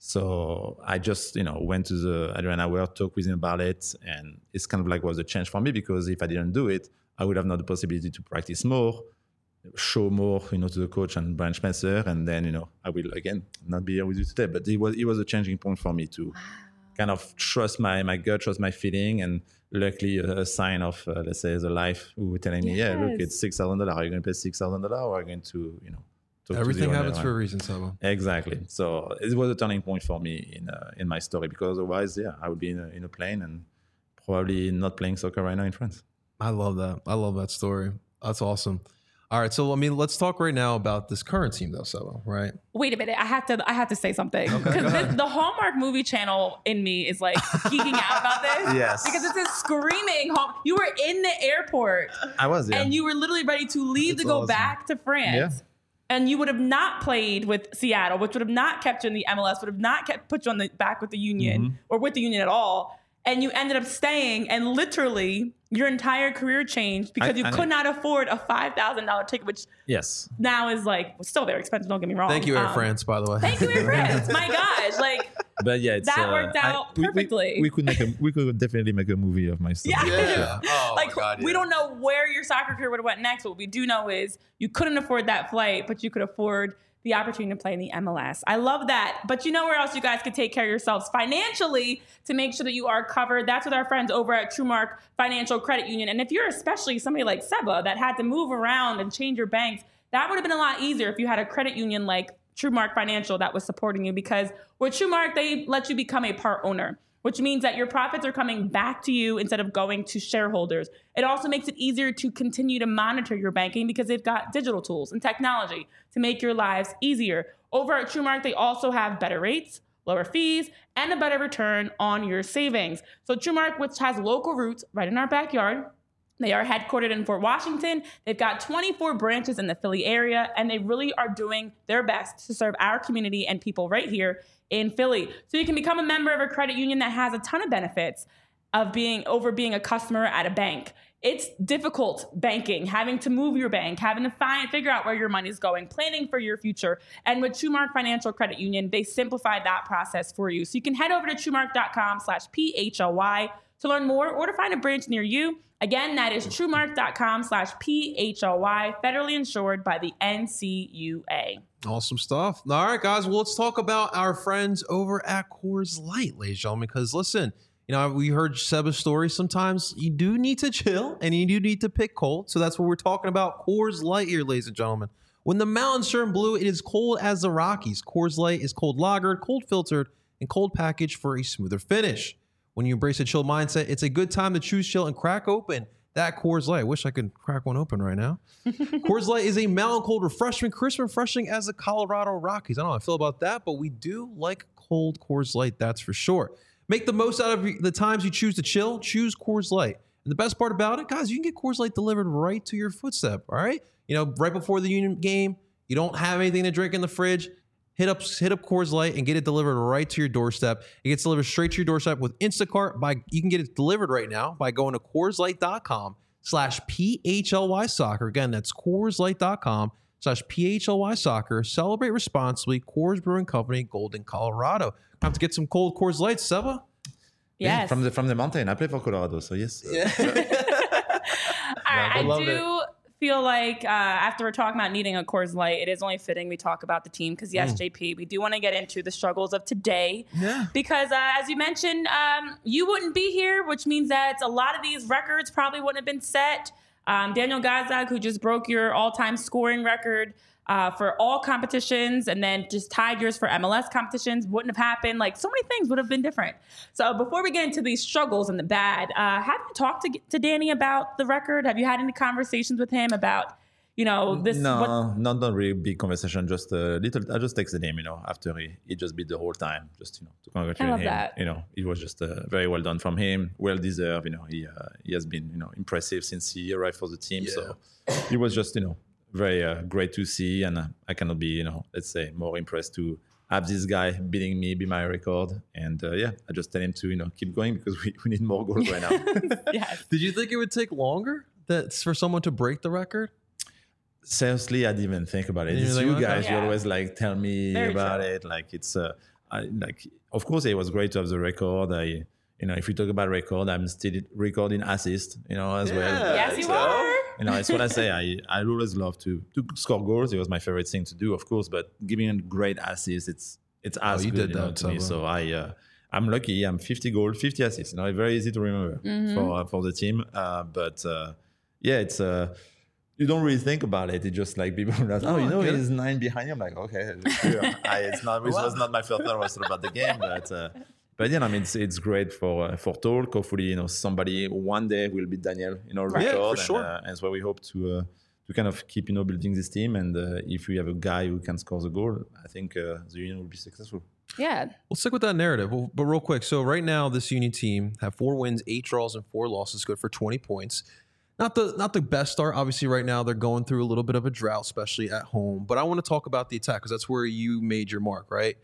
So I just, you know, went to the Adrian Auer, talked with him about it. And it's kind of like was a change for me because if I didn't do it, I would have not the possibility to practice more, show more, you know, to the coach and Brian Schmetzer. And then, you know, I will, again, not be here with you today. But it was it was a changing point for me to wow. kind of trust my, my gut, trust my feeling. And luckily, a, a sign of, uh, let's say, the life who were telling me, yes. yeah, look, it's six thousand dollars. Are you going to pay six thousand dollars or are you going to, you know, talk everything to happens for a reason, Saba. Exactly. So it was a turning point for me in uh, in my story because otherwise, yeah, I would be in a, in a plane and probably not playing soccer right now in France. I love that. I love that story. That's awesome. All right, so I mean, let's talk right now about this current team, though, Saba. Right? Wait a minute, I have to. I have to say something because okay, the Hallmark movie channel in me is like geeking out about this. Yes, because it's a screaming. Home. You were in the airport. I was, yeah, and you were literally ready to leave That's to go awesome. back to France. Yeah. And you would have not played with Seattle, which would have not kept you in the M L S, would have not kept put you on the back with the Union mm-hmm. or with the Union at all. And you ended up staying, and literally your entire career changed because I, you I could know. not afford a five thousand dollars ticket, which yes. now is like still very expensive. Don't get me wrong. Thank you, Air um, France, by the way. Thank you, Air France. My gosh, like but yeah, it's, that uh, worked out I, we, perfectly. We, we could make a, we could definitely make a movie of my story. Yeah, yeah. Oh, like my God, yeah. we don't know where your soccer career would have went next. What we do know is you couldn't afford that flight, but you could afford the opportunity to play in the M L S. I love that. But you know where else you guys could take care of yourselves financially to make sure that you are covered? That's with our friends over at TrueMark Financial Credit Union. And if you're especially somebody like Seba that had to move around and change your banks, that would have been a lot easier if you had a credit union like TrueMark Financial that was supporting you, because with TrueMark, they let you become a part owner, which means that your profits are coming back to you instead of going to shareholders. It also makes it easier to continue to monitor your banking because they've got digital tools and technology to make your lives easier. Over at TrueMark, they also have better rates, lower fees, and a better return on your savings. So TrueMark, which has local roots right in our backyard, they are headquartered in Fort Washington. They've got twenty-four branches in the Philly area, and they really are doing their best to serve our community and people right here in Philly. So you can become a member of a credit union that has a ton of benefits of being over being a customer at a bank. It's difficult banking, having to move your bank, having to find, figure out where your money is going, planning for your future. And with TrueMark Financial Credit Union, they simplified that process for you. So you can head over to TrueMark.com slash P-H-L-Y to learn more or to find a branch near you. Again, that is TrueMark.com slash P-H-L-Y, federally insured by the N C U A. Awesome stuff. All right, guys, well, let's talk about our friends over at Coors Light, ladies and gentlemen, because listen, you know, we heard Seba's story. Sometimes you do need to chill and you do need to pick cold. So that's what we're talking about. Coors Light here, ladies and gentlemen. When the mountains turn blue, it is cold as the Rockies. Coors Light is cold lagered, cold filtered, and cold packaged for a smoother finish. When you embrace a chill mindset, it's a good time to choose chill and crack open that Coors Light. I wish I could crack one open right now. Coors Light is a mountain cold refreshment, crisp and refreshing as the Colorado Rockies. I don't know how I feel about that, but we do like cold Coors Light, that's for sure. Make the most out of the times you choose to chill. Choose Coors Light. And the best part about it, guys, you can get Coors Light delivered right to your footstep, all right? You know, right before the Union game, you don't have anything to drink in the fridge, hit up hit up Coors Light and get it delivered right to your doorstep. It gets delivered straight to your doorstep with Instacart. By You can get it delivered right now by going to CoorsLight.com slash PHLY Soccer. Again, that's CoorsLight.com slash PHLY Soccer. Celebrate responsibly. Coors Brewing Company, Golden, Colorado. Have to get some cold Coors Light, Seba? Yes. Yeah, from the from the mountain. I play for Colorado, so yes. Yeah. All right, I, I do it. feel like uh, after we're talking about needing a Coors Light, it is only fitting we talk about the team because, yes, mm. J P, we do want to get into the struggles of today. Yeah. Because, uh, as you mentioned, um, you wouldn't be here, which means that a lot of these records probably wouldn't have been set. Um, Daniel Gazdag, who just broke your all-time scoring record uh, for all competitions and then just tied yours for M L S competitions, wouldn't have happened. Like, so many things would have been different. So before we get into these struggles and the bad, uh, have you talked to, to Danny about the record? Have you had any conversations with him about, you know, this? No, what- not not really big conversation. Just a little. I just texted him, you know, after he, he just beat the whole time, just you know, to congratulate I love him. that. You know, it was just uh, very well done from him, well deserved. You know, he uh, he has been you know impressive since he arrived for the team. Yeah. So it was just you know very uh, great to see, and uh, I cannot be you know let's say more impressed to have this guy beating me, be my record, and uh, yeah, I just tell him to you know keep going because we, we need more goals right now. Yes. Did you think it would take longer that for someone to break the record? Seriously, I didn't even think about it. You're It's like, you okay. guys, you Yeah. always like tell me Very about true. it. Like it's uh, I, like of course it was great to have the record. I you know if we talk about record, I'm still recording assist, you know as well. Yeah. Yes, But, you uh, are. You know, it's what I say. I I always love to to score goals. It was my favorite thing to do, of course. But giving a great assist, it's it's as Oh, you good did you know, that, to me. Saba. So I. Uh, I'm lucky. I'm fifty goals, fifty assists. You know, very easy to remember Mm-hmm. for uh, for the team. Uh, but uh, yeah, it's uh, you don't really think about it. It's just like people are like, oh, you I know, get it. he's nine behind you. I'm like, okay, sure. I, it's not. It was not my first thought was about the game, but uh, but yeah, I mean, it's it's great for uh, for talk. Hopefully, you know, somebody one day will be Daniel, you know, Right. record. Yeah, for and, sure. uh, and so we hope to. Uh, to kind of keep, you know, building this team, and uh, if we have a guy who can score the goal, I think uh, the Union will be successful. Yeah. We'll stick with that narrative. Well, but real quick, so right now this Union team have four wins, eight draws, and four losses, good for twenty points. Not the not the best start. Obviously, right now they're going through a little bit of a drought, especially at home. But I want to talk about the attack because that's where you made your mark, right?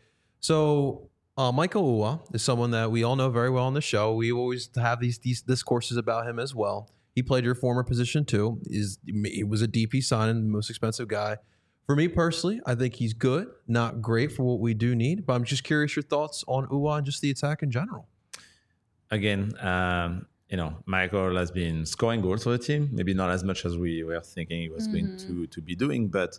So uh, Michael Uwa is someone that we all know very well on the show. We always have these, these discourses about him as well. He played your former position too. Is he was a D P signing, the most expensive guy. For me personally, I think he's good, not great for what we do need. But I'm just curious your thoughts on Uwa and just the attack in general. Again, um, you know, Michael has been scoring goals for the team. Maybe not as much as we were thinking he was going to to be doing, but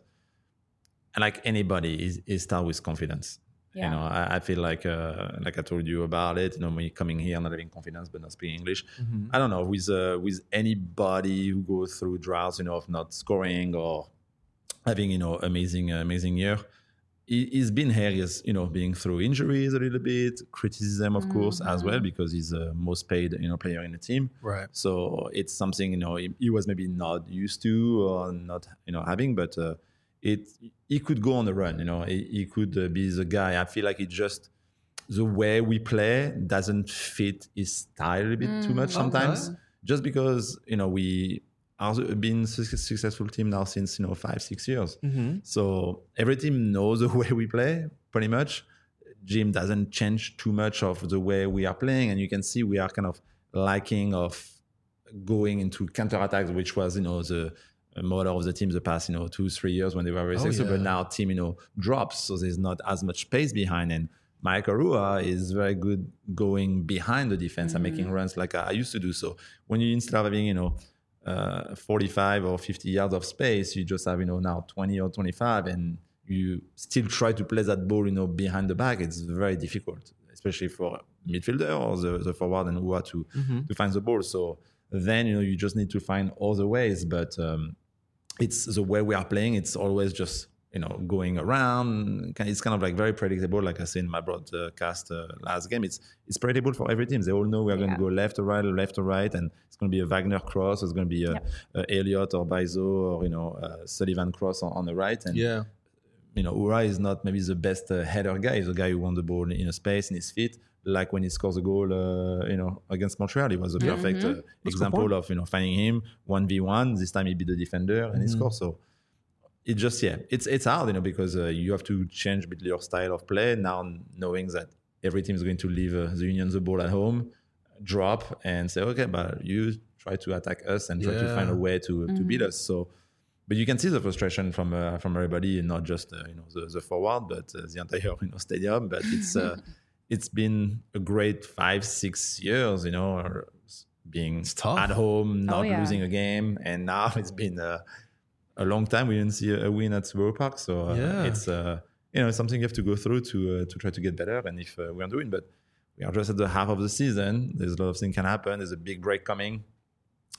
like anybody, he, he starts with confidence. Yeah. You know, I, I feel like uh, like I told you about it. You know, when you're coming here, not having confidence, but not speaking English. I don't know with uh, with anybody who goes through droughts, you know, of not scoring or having you know amazing amazing year. He, he's been here, he's you know being through injuries a little bit, criticism of course as well because he's the most paid you know player in the team. Right. So it's something you know he, he was maybe not used to or not you know having, but uh, it he could go on the run. You know, he, he could uh, be the guy. I feel like it just the way we play doesn't fit his style a bit too much sometimes. okay. Just because you know we are been a successful team now since you know five six years. Mm-hmm. So every team knows the way we play pretty much. Jim doesn't change too much of the way we are playing, and you can see we are kind of lacking of going into counterattacks, which was you know the model of the team the past you know two three years when they were very Oh, successful. yeah. But now team you know drops, so there's not as much space behind. And Michael Rua is very good going behind the defense and making runs like I, I used to do. So when you instead of having you know uh, forty-five or fifty yards of space, you just have you know now twenty or twenty-five, and you still try to play that ball you know behind the back. It's very difficult, especially for midfielder or the, the forward and Rua to Mm-hmm. to find the ball. So then you know you just need to find other ways, but um, it's the way we are playing. It's always just you know going around. It's kind of like very predictable. Like I said in my broadcast uh, last game, it's it's predictable for every team. They all know we are going Yeah. to go left or right, left or right, and it's going to be a Wagner cross. It's going to be a, Yep. a Elliott or Baizo or you know uh, Sullivan cross on, on the right. And Yeah. you know, Ura is not maybe the best uh, header guy. He's a guy who won the ball in a space in his feet. Like when he scores a goal, uh, you know, against Montreal, he was a perfect uh, example point. of you know finding him one v one. This time he beat the defender and he scores. So it just yeah, it's it's hard, you know, because uh, you have to change a bit your style of play now, knowing that every team is going to leave uh, the Union the ball at home, drop and say, okay, but you try to attack us and try to Yeah. find a way to to beat us. So. But you can see the frustration from uh, from everybody, and not just uh, you know the, the forward, but uh, the entire you know stadium. But it's uh, it's been a great five six years, you know, or being tough. at home, not yeah. losing a game, and now it's been uh, a long time we didn't see a, a win at Borough Park. So uh, Yeah. it's uh, you know something you have to go through to uh, to try to get better. And if uh, we are doing, but we are just at the half of the season. There's a lot of things can happen. There's a big break coming.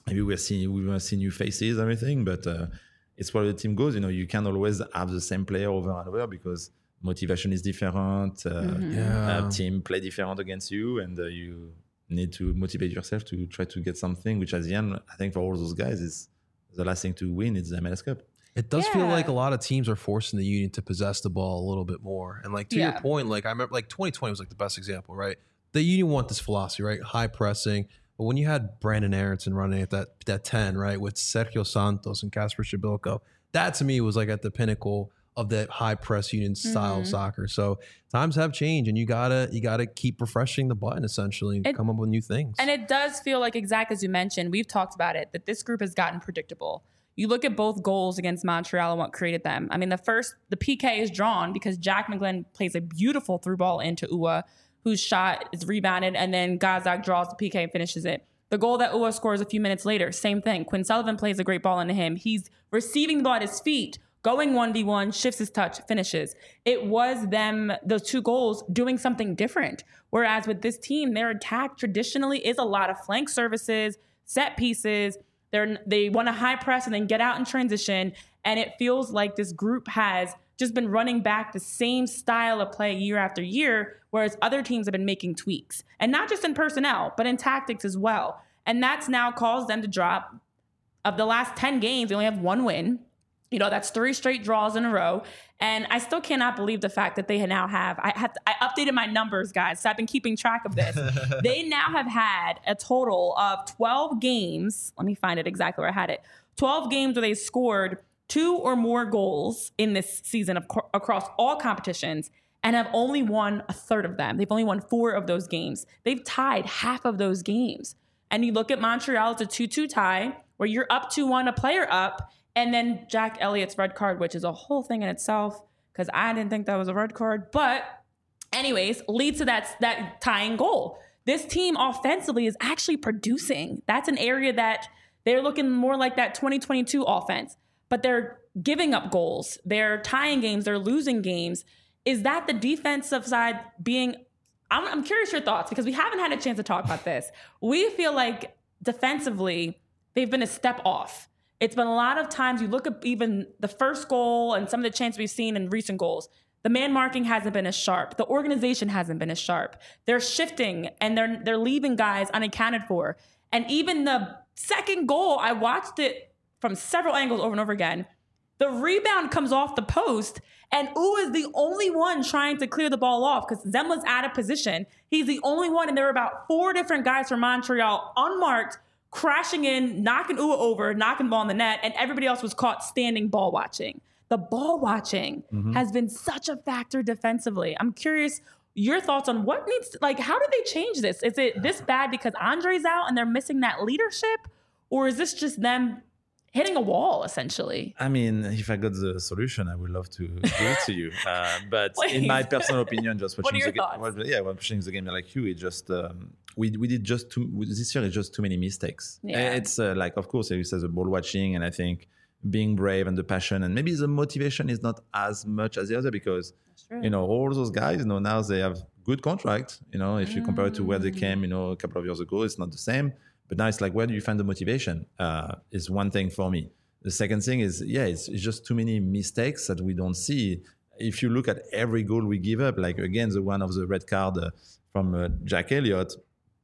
maybe we're seeing we will see new faces, everything, but uh, it's where the team goes. You know, you can't always have the same player over and over because motivation is different. Uh, Mm-hmm. Yeah. uh, team play different against you, and uh, you need to motivate yourself to try to get something. Which, at the end, I think for all those guys, is the last thing to win. It's the M L S Cup. It does feel Yeah. like a lot of teams are forcing the Union to possess the ball a little bit more. And like to Yeah. your point, like I remember like twenty twenty was like the best example, right? The Union want this philosophy, right? High pressing. But when you had Brandon Aronson running at that that ten, right, with Sergio Santos and Kasper Shabilko, that to me was like at the pinnacle of that high press Union style of Mhm. soccer. So times have changed, and you gotta you gotta keep refreshing the button essentially and It- come up with new things. And it does feel like, exactly as you mentioned, we've talked about it, that this group has gotten predictable. You look at both goals against Montreal and what created them. I mean, the first, the P K is drawn because Jack McGlynn plays a beautiful through ball into Ua, whose shot is rebounded, and then Gazak draws the P K and finishes it. The goal that Ua scores a few minutes later, same thing. Quinn Sullivan plays a great ball into him. He's receiving the ball at his feet, going one v one, shifts his touch, finishes. It was them, those two goals, doing something different. Whereas with this team, their attack traditionally is a lot of flank services, set pieces. They're, they want to high press and then get out in transition. And it feels like this group has just been running back the same style of play year after year, whereas other teams have been making tweaks. And not just in personnel, but in tactics as well. And that's now caused them to drop. Of the last ten games, they only have one win. You know, that's three straight draws in a row. And I still cannot believe the fact that they now have, I have, I updated my numbers, guys, so I've been keeping track of this. They now have had a total of twelve games. Let me find it exactly where I had it. twelve games where they scored two or more goals in this season of, across all competitions, and have only won a third of them. They've only won four of those games. They've tied half of those games. And you look at Montreal, it's a two two tie where you're up two one, a player up, and then Jack Elliott's red card, which is a whole thing in itself because I didn't think that was a red card. But anyways, leads to that, that tying goal. This team offensively is actually producing. That's an area that they're looking more like that twenty twenty-two offense. But they're giving up goals. They're tying games. They're losing games. Is that the defensive side being... I'm, I'm curious your thoughts because we haven't had a chance to talk about this. We feel like defensively, they've been a step off. It's been a lot of times you look at even the first goal and some of the chances we've seen in recent goals. The man marking hasn't been as sharp. The organization hasn't been as sharp. They're shifting and they're they're leaving guys unaccounted for. And even the second goal, I watched it from several angles over and over again. The rebound comes off the post, and Ua is the only one trying to clear the ball off because Zemla's out of position. He's the only one, and there were about four different guys from Montreal unmarked, crashing in, knocking Ua over, knocking the ball in the net, and everybody else was caught standing ball watching. The ball watching mm-hmm. has been such a factor defensively. I'm curious your thoughts on what needs to, like, how do they change this? Is it this bad because Andre's out and they're missing that leadership? Or is this just them hitting a wall, essentially? I mean, if I got the solution, I would love to give it to you. Uh, but in my personal opinion, just watching what are your the thoughts? game, yeah, watching the game like you, it just um, we we did just too this year is just too many mistakes. Yeah. It's uh, like, of course, you said the ball watching, and I think being brave and the passion, and maybe the motivation is not as much as the other because you know all those guys, you know, now they have good contract. You know, if you mm. compare it to where they came, you know, a couple of years ago, it's not the same. But now it's like, where do you find the motivation? Uh, is one thing for me. The second thing is, yeah, it's, it's just too many mistakes that we don't see. If you look at every goal we give up, like again, the one of the red card uh, from uh, Jack Elliott,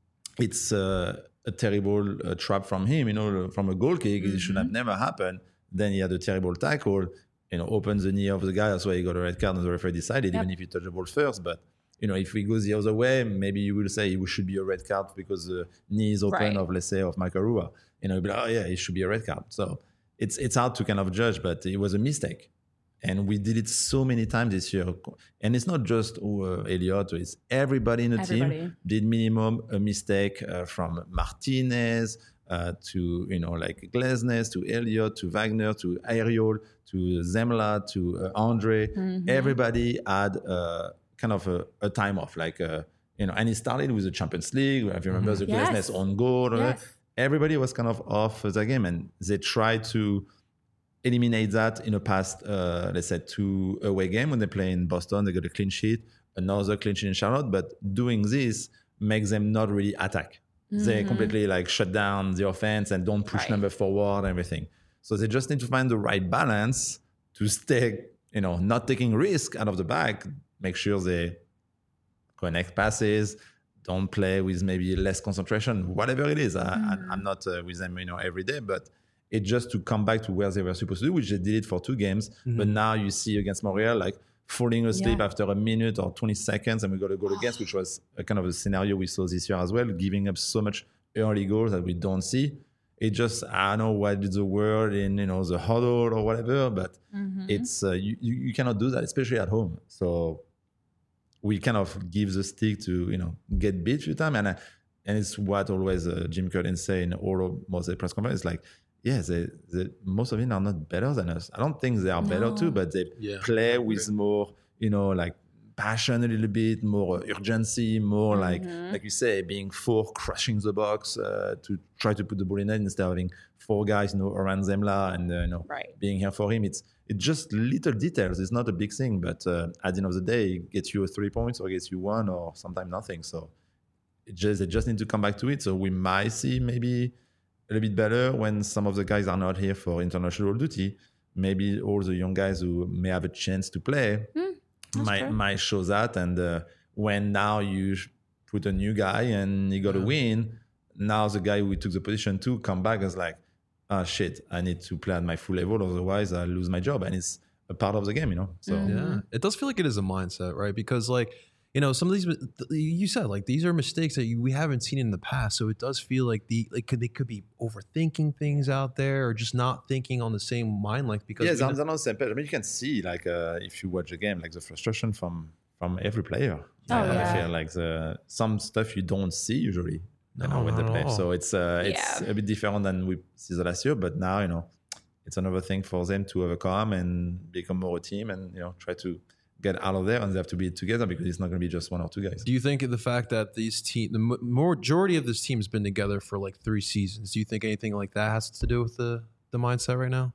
it's uh, a terrible uh, trap from him, you know, from a goal kick. Mm-hmm. It should have never happened. Then he had a terrible tackle, you know, opens the knee of the guy. That's why he got a red card and the referee decided, yep. even if he touched the ball first. But you know, if we go the other way, maybe you will say it should be a red card because the knee is open right. of, let's say, of Michael Rua. You know, be like, oh yeah, it should be a red card. So it's it's hard to kind of judge, but it was a mistake. And we did it so many times this year. And it's not just uh, Elliott, it's everybody in the everybody. team did minimum a mistake uh, from Martinez uh, to, you know, like Glesnes, to Elliott, to Wagner, to Ariol, to Zemla, to uh, Andre. Mm-hmm. Everybody had uh, kind of a, a time off, like, uh, you know, and it started with the Champions League. If you remember mm-hmm. the yes. Glesnes on goal, yes. everybody was kind of off the game, and they tried to eliminate that in the past, uh, let's say, two away game when they play in Boston. They got a clean sheet, another clean sheet in Charlotte, but doing this makes them not really attack. Mm-hmm. They completely like shut down the offense and don't push right. number forward and everything. So they just need to find the right balance to stay, you know, not taking risk out of the back, make sure they connect passes, don't play with maybe less concentration, whatever it is. Mm-hmm. I, I'm not uh, with them, you know, every day, but it just to come back to where they were supposed to do, which they did it for two games. Mm-hmm. But now you see against Montreal, like falling asleep yeah. after a minute or twenty seconds, and we got a goal against, which was a kind of a scenario we saw this year as well, giving up so much early goals that we don't see. It just, I don't know what is the word in, you know, the huddle or whatever, but mm-hmm. it's, uh, you, you, you cannot do that, especially at home. So we kind of give the stick to, you know, get beat a few times. And, uh, and it's what always uh, Jim Curtin say in all of most of the press conferences, like, yeah, they, they, most of them are not better than us. I don't think they are no. better too, but they yeah. play with more, you know, like passion a little bit, more urgency, more mm-hmm. like, like you say, being four, crushing the box uh, to try to put the ball in it instead of having four guys, you know, around Zemla and, uh, you know, right. being here for him. It's it's just little details. It's not a big thing, but uh, at the end of the day, it gets you a three points or gets you one or sometimes nothing. So it just they just need to come back to it. So we might see maybe a little bit better when some of the guys are not here for international duty. Maybe all the young guys who may have a chance to play mm, might, might show that. And uh, when now you put a new guy and you got to yeah. win, now the guy who took the position to come back is like, ah, shit, I need to play at my full level, otherwise I'll lose my job. And it's a part of the game, you know? So mm-hmm. yeah, it does feel like it is a mindset, right? Because like, you know, some of these, you said, like, these are mistakes that you, we haven't seen in the past. So it does feel like the like could, they could be overthinking things out there or just not thinking on the same mind length. Because yeah, they're on the same page. I mean, you can see, like, uh, if you watch the game, like the frustration from from every player. Oh, uh, yeah. I feel like the some stuff you don't see usually you know, no, when they play. all. So it's uh, it's yeah. a bit different than we see the last year. But now, you know, it's another thing for them to overcome and become more a team and, you know, try to get out of there, and they have to be together because it's not going to be just one or two guys. Do you think the fact that these team, the majority of this team has been together for like three seasons, do you think anything like that has to do with the, the mindset right now?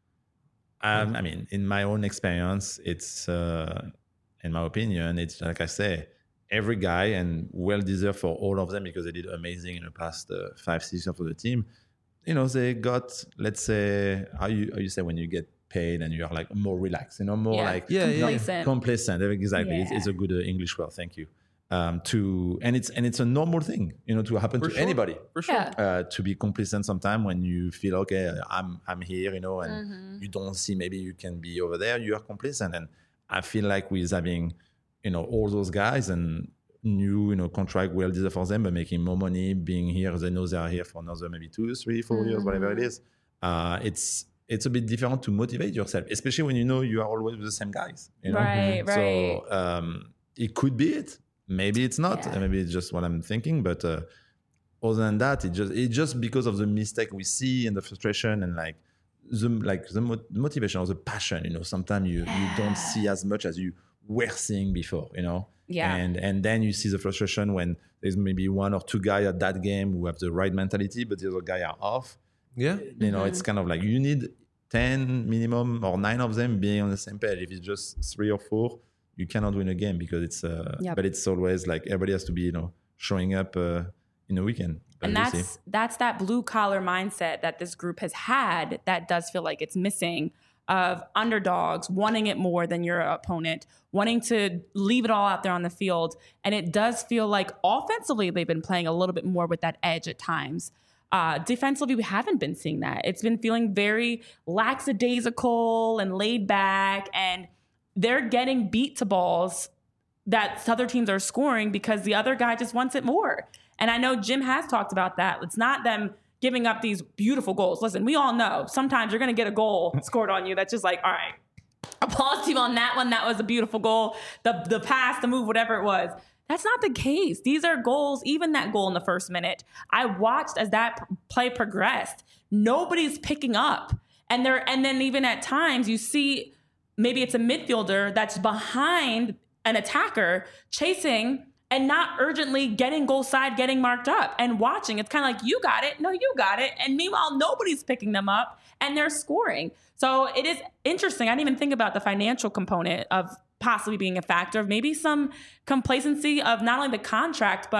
Um, I mean, in my own experience, it's, uh, in my opinion, it's like I say, every guy, and well deserved for all of them because they did amazing in the past uh, five seasons for the team. You know, they got, let's say, how you, how you say when you get paid and you're like more relaxed, you know, more yeah. like yeah, complacent. Yeah, complacent. Exactly, yeah. it's, it's a good uh, English word. Thank you. Um, to and it's and it's a normal thing, you know, to happen For to sure. anybody. For sure, yeah. uh, to be complacent sometime when you feel okay, I'm I'm here, you know, and mm-hmm. you don't see maybe you can be over there. You are complacent, and I feel like with having, you know, all those guys and new, you know, contract well deserved for them, but making more money, being here, they know they are here for another maybe two, three, four mm-hmm. years, whatever it is. Uh, it's it's a bit different to motivate yourself, especially when you know you are always with the same guys. You know? Right, right. So um, it could be it. Maybe it's not. Yeah. Maybe it's just what I'm thinking. But uh, other than that, it just it's just because of the mistake we see and the frustration and like the like the mo- motivation or the passion. You know, sometimes you, yeah. you don't see as much as you were seeing before. You know. Yeah. And and then you see the frustration when there's maybe one or two guys at that game who have the right mentality, but the other guy are off. Yeah. You know, mm-hmm. it's kind of like you need ten minimum or nine of them being on the same page. If it's just three or four, you cannot win a game because it's, uh, yep. but it's always like everybody has to be, you know, showing up uh, in a weekend. But and we'll that's, see. that's that blue collar mindset that this group has had that does feel like it's missing, of underdogs, wanting it more than your opponent, wanting to leave it all out there on the field. And it does feel like offensively, they've been playing a little bit more with that edge at times. Uh, defensively, we haven't been seeing that. It's been feeling very lackadaisical and laid back, and they're getting beat to balls that other teams are scoring because the other guy just wants it more. And I know Jim has talked about that. It's not them giving up these beautiful goals. Listen, we all know sometimes you're going to get a goal scored on you that's just like, all right, applause to you on that one. That was a beautiful goal. The the pass, the move, whatever it was. That's not the case. These are goals, even that goal in the first minute. I watched as that play progressed. Nobody's picking up. And there, and then even at times you see maybe it's a midfielder that's behind an attacker chasing and not urgently getting goal side, getting marked up and watching. It's kind of like, you got it. No, you got it. And meanwhile, nobody's picking them up and they're scoring. So it is interesting. I didn't even think about the financial component of possibly being a factor of maybe some complacency of not only the contract, but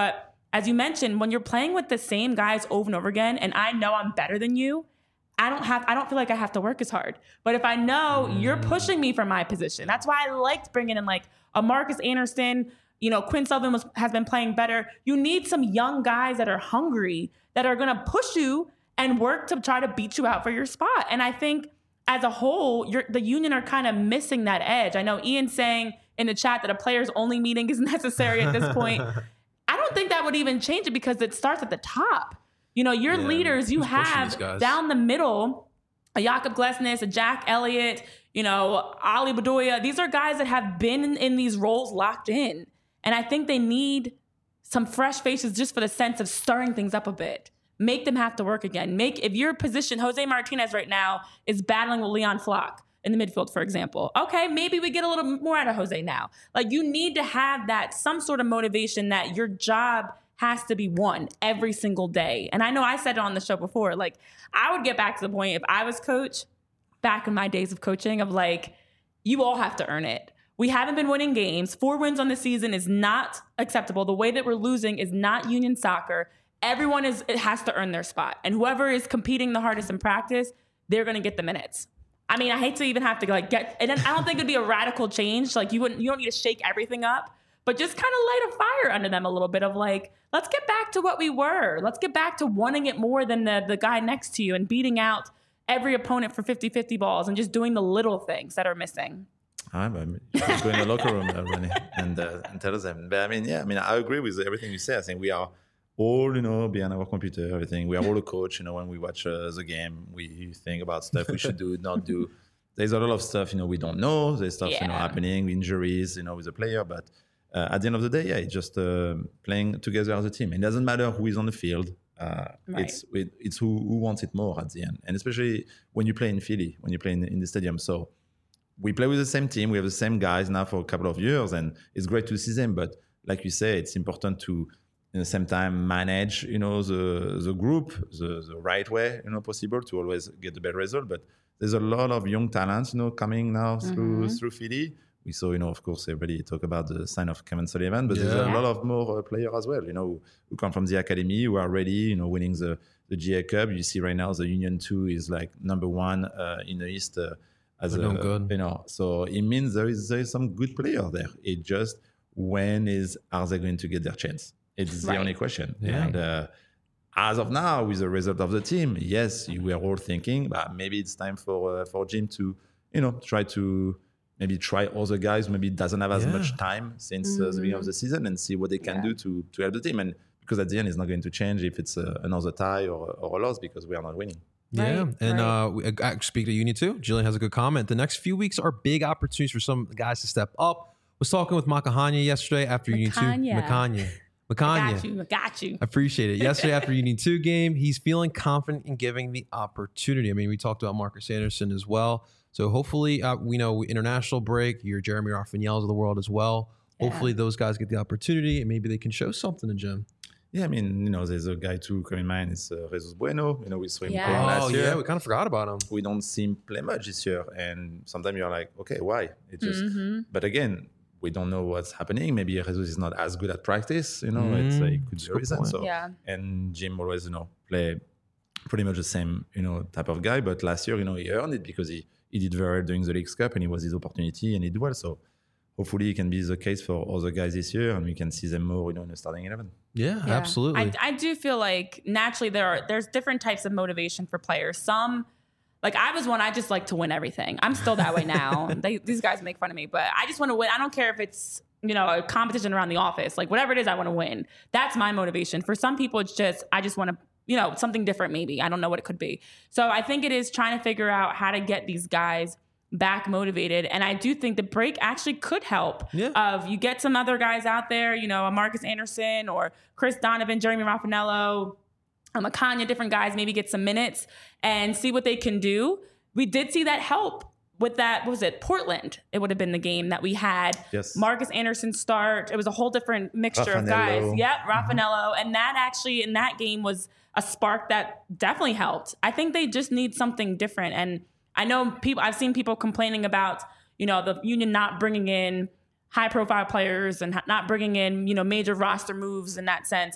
as you mentioned, when you're playing with the same guys over and over again, and I know I'm better than you, I don't have, I don't feel like I have to work as hard. But if I know mm. you're pushing me from my position, that's why I liked bringing in like a Marcus Anderson. You know, Quinn Sullivan was, has been playing better. You need some young guys that are hungry, that are going to push you and work to try to beat you out for your spot. And I think as a whole, you're, the Union are kind of missing that edge. I know Ian's saying in the chat that a players only meeting is necessary at this point. I don't think that would even change it because it starts at the top. You know, your yeah, leaders you have down the middle, a Jakob Glesnes, a Jack Elliott, you know, Ali Bedoya. These are guys that have been in, in these roles locked in. And I think they need some fresh faces just for the sense of stirring things up a bit. Make them have to work again. Make, if your position, Jose Martinez right now is battling with Leon Flock in the midfield, for example. Okay, maybe we get a little more out of Jose now. Like, you need to have that, some sort of motivation that your job has to be won every single day. And I know I said it on the show before, like, I would get back to the point if I was coach, back in my days of coaching, of like, you all have to earn it. We haven't been winning games. Four wins on the season is not acceptable. The way that we're losing is not Union soccer. Everyone is it has to earn their spot. And whoever is competing the hardest in practice, they're going to get the minutes. I mean, I hate to even have to like get, and then I don't think it'd be a radical change. Like, you wouldn't, you don't need to shake everything up, but just kind of light a fire under them a little bit of like, let's get back to what we were. Let's get back to wanting it more than the, the guy next to you and beating out every opponent for fifty-fifty balls and just doing the little things that are missing. I mean, just go in the locker room, uh, Renee, and, uh, and tell them. But I mean, yeah, I mean, I agree with everything you say. I think we are all, you know, behind our computer, everything. We are all a coach, you know, when we watch uh, the game, we think about stuff we should do, not do. There's a lot of stuff, you know, we don't know. There's stuff, yeah. you know, happening, injuries, you know, with the player. But uh, at the end of the day, yeah, it's just uh, playing together as a team. It doesn't matter who is on the field. Uh, right. It's it, it's who, who wants it more at the end. And especially when you play in Philly, when you play in, in the stadium. So we play with the same team. We have the same guys now for a couple of years. And it's great to see them. But like you say, it's important to, at the same time, manage, you know, the the group the, the right way, you know, possible to always get the better result. But there's a lot of young talents, you know, coming now through mm-hmm. through Philly. We saw, you know, of course, everybody talk about the sign of Kevin Sullivan, but yeah. there's a lot of more uh, players as well, you know, who, who come from the academy, who are ready, you know, winning the, the G A Cup. You see right now the Union two is like number one uh, in the East uh, as a, good. you know, so it means there is, there is some good player there. It just, when is, are they going to get their chance? It's right. the only question. Yeah. And uh, as of now, with the result of the team, yes, we are all thinking, but maybe it's time for uh, for Jim to, you know, try to maybe try other guys. Maybe doesn't have as yeah. much time since mm-hmm. uh, the beginning of the season and see what they can yeah. do to to help the team. And because at the end, it's not going to change if it's uh, another tie or, or a loss because we are not winning. Yeah, right, and right. uh, we, uh, speak to Union too. Jillian has a good comment. The next few weeks are big opportunities for some guys to step up. Was talking with Makahanya yesterday after Union two. Makahanya. Makanya. I got you. I got you. I appreciate it. Yesterday after Union two game, he's feeling confident in giving the opportunity. I mean, we talked about Marcus Anderson as well. So hopefully, uh, we know international break, your Jeremy Rafaels of the world as well. Yeah. Hopefully those guys get the opportunity and maybe they can show something to Jim. Yeah, I mean, you know, there's a guy too coming in mind. It's uh, Jesus Bueno. You know, we saw him yeah. play oh, last year. Yeah, we kind of forgot about him. We don't see him play much this year. And sometimes you're like, okay, why? It just, mm-hmm. but again, we don't know what's happening. Maybe Jesus is not as good at practice, you know, mm, it's, uh, it could be a reason. So, yeah. And Jim always, you know, play pretty much the same, you know, type of guy. But last year, you know, he earned it because he, he did very well during the Leagues Cup and it was his opportunity and he did well. So hopefully it can be the case for other guys this year and we can see them more, you know, in the starting eleven. Yeah, yeah. absolutely. I, I do feel like naturally there are, there's different types of motivation for players. Some, like I was one, I just like to win everything. I'm still that way now. they, these guys make fun of me, but I just want to win. I don't care if it's, you know, a competition around the office, like whatever it is, I want to win. That's my motivation. For some people, it's just, I just want to, you know, something different maybe. I don't know what it could be. So I think it is trying to figure out how to get these guys back motivated. And I do think the break actually could help. Yeah. Of you get some other guys out there, you know, a Marcus Anderson or Chris Donovan, Jeremy Raffanello, um, Makanya, different guys, maybe get some minutes and see what they can do. We did see that help with that, what was it, Portland? It would have been the game that we had yes. Marcus Anderson start. It was a whole different mixture Raffanello. of guys. Yep, Raffanello. And that actually, in that game, was a spark that definitely helped. I think they just need something different. And I know people, I've seen people complaining about, you know, the Union not bringing in high profile players and not bringing in, you know, major roster moves in that sense.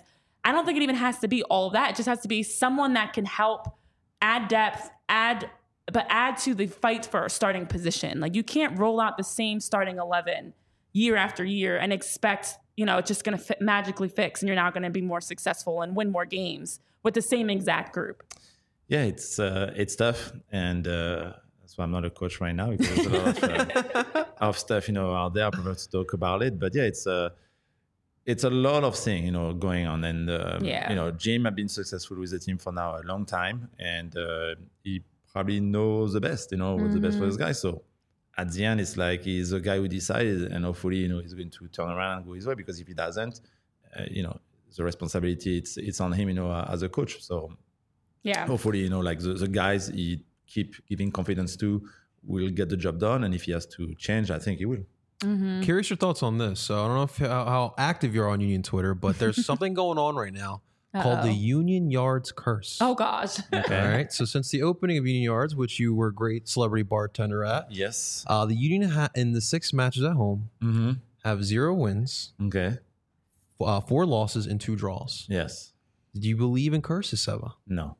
I don't think it even has to be all of that. It just has to be someone that can help add depth, add, but add to the fight for a starting position. Like, you can't roll out the same starting eleven year after year and expect, you know, it's just going to fit, magically fix and you're now going to be more successful and win more games with the same exact group. Yeah, it's uh, it's tough, and uh, that's why I'm not a coach right now, because there's a lot of, uh, of stuff, you know, out there. I prefer to talk about it, but yeah, it's uh, it's a lot of things, you know, going on, and um, yeah. you know, Jim has been successful with the team for now a long time, and uh, he probably knows the best, you know, what's mm-hmm. the best for this guy. So at the end, it's like he's the guy who decided, and hopefully, you know, he's going to turn around and go his way, because if he doesn't, uh, you know, the responsibility it's it's on him, you know, uh, as a coach. So. Yeah. Hopefully, you know, like the, the guys he keep giving confidence to will get the job done. And if he has to change, I think he will. Mm-hmm. Curious your thoughts on this. So I don't know if, how, how active you're on Union Twitter, but there's something going on right now Uh-oh. called the Union Yards Curse. Oh, gosh. Okay. All right. So since the opening of Union Yards, which you were a great celebrity bartender at. Yes. Uh, the Union ha- in the six matches at home mm-hmm. have zero wins. Okay. Uh, four losses and two draws. Yes. Do you believe in curses, Seba? No.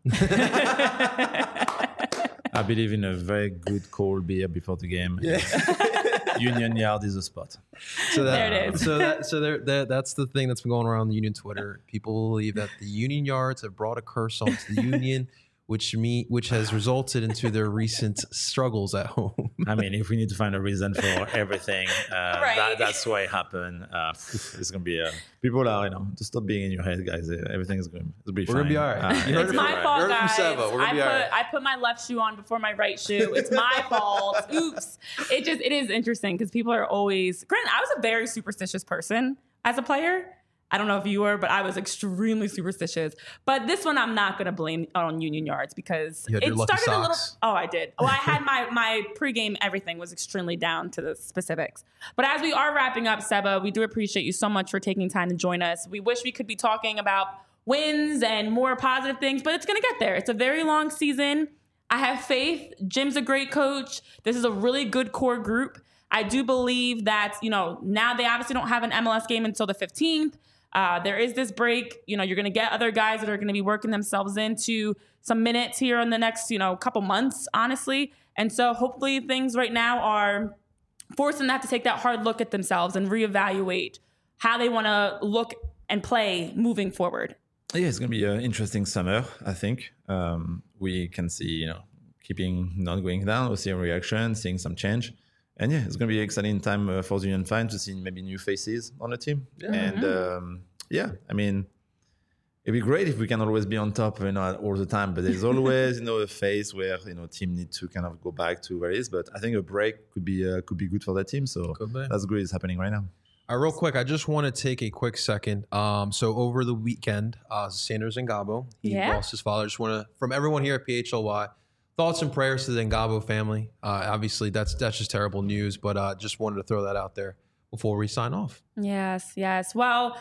I believe in a very good cold beer before the game. Yeah. Union Yard is a spot. So that, there it is. So that so there that, that's the thing that's been going around the Union Twitter. People believe that the Union Yards have brought a curse onto the Union, which me which has resulted into their recent struggles at home. I mean, if we need to find a reason for everything, uh, right. that, that's why it happened. Uh, it's gonna be uh, people are, you know, just stop being in your head, guys. Everything is going to be We're fine. gonna be all right. Uh, you heard it's it my from, fault, heard guys. It from Seba. We're gonna I be put all right. I put my left shoe on before my right shoe. It's my fault. Oops. It just it is interesting because people are always. Granted, I was a very superstitious person as a player. I don't know if you were, but I was extremely superstitious. But this one, I'm not going to blame on Union Yards because you had it your lucky started socks. a little. Oh, I did. Oh, I had my my pregame. Everything was extremely down to the specifics. But as we are wrapping up, Seba, we do appreciate you so much for taking time to join us. We wish we could be talking about wins and more positive things, but it's going to get there. It's a very long season. I have faith. Jim's a great coach. This is a really good core group. I do believe that, you know, now they obviously don't have an M L S game until the fifteenth. Uh, there is this break. You know, you're going to get other guys that are going to be working themselves into some minutes here in the next, you know, couple months, honestly. And so hopefully things right now are forcing them to have to take that hard look at themselves and reevaluate how they want to look and play moving forward. Yeah, it's going to be an interesting summer, I think. Um, we can see, you know, keeping not going down, we'll see a reaction, seeing some change. And yeah, it's going to be an exciting time uh, for the Union fans to see maybe new faces on the team. Yeah. And um, yeah, I mean, it'd be great if we can always be on top, you know, all the time. But there's always, you know, a phase where, you know, team need to kind of go back to where it is. But I think a break could be uh, could be good for that team. So that's great. It's happening right now. All right, real quick, I just want to take a quick second. Um, so over the weekend, uh, Sanders Ngabo, he yeah. lost his father. Just want to, from everyone here at P H L Y, thoughts and prayers to the Ngabo family. Uh, obviously, that's that's just terrible news, but uh, just wanted to throw that out there before we sign off. Yes, yes. Well,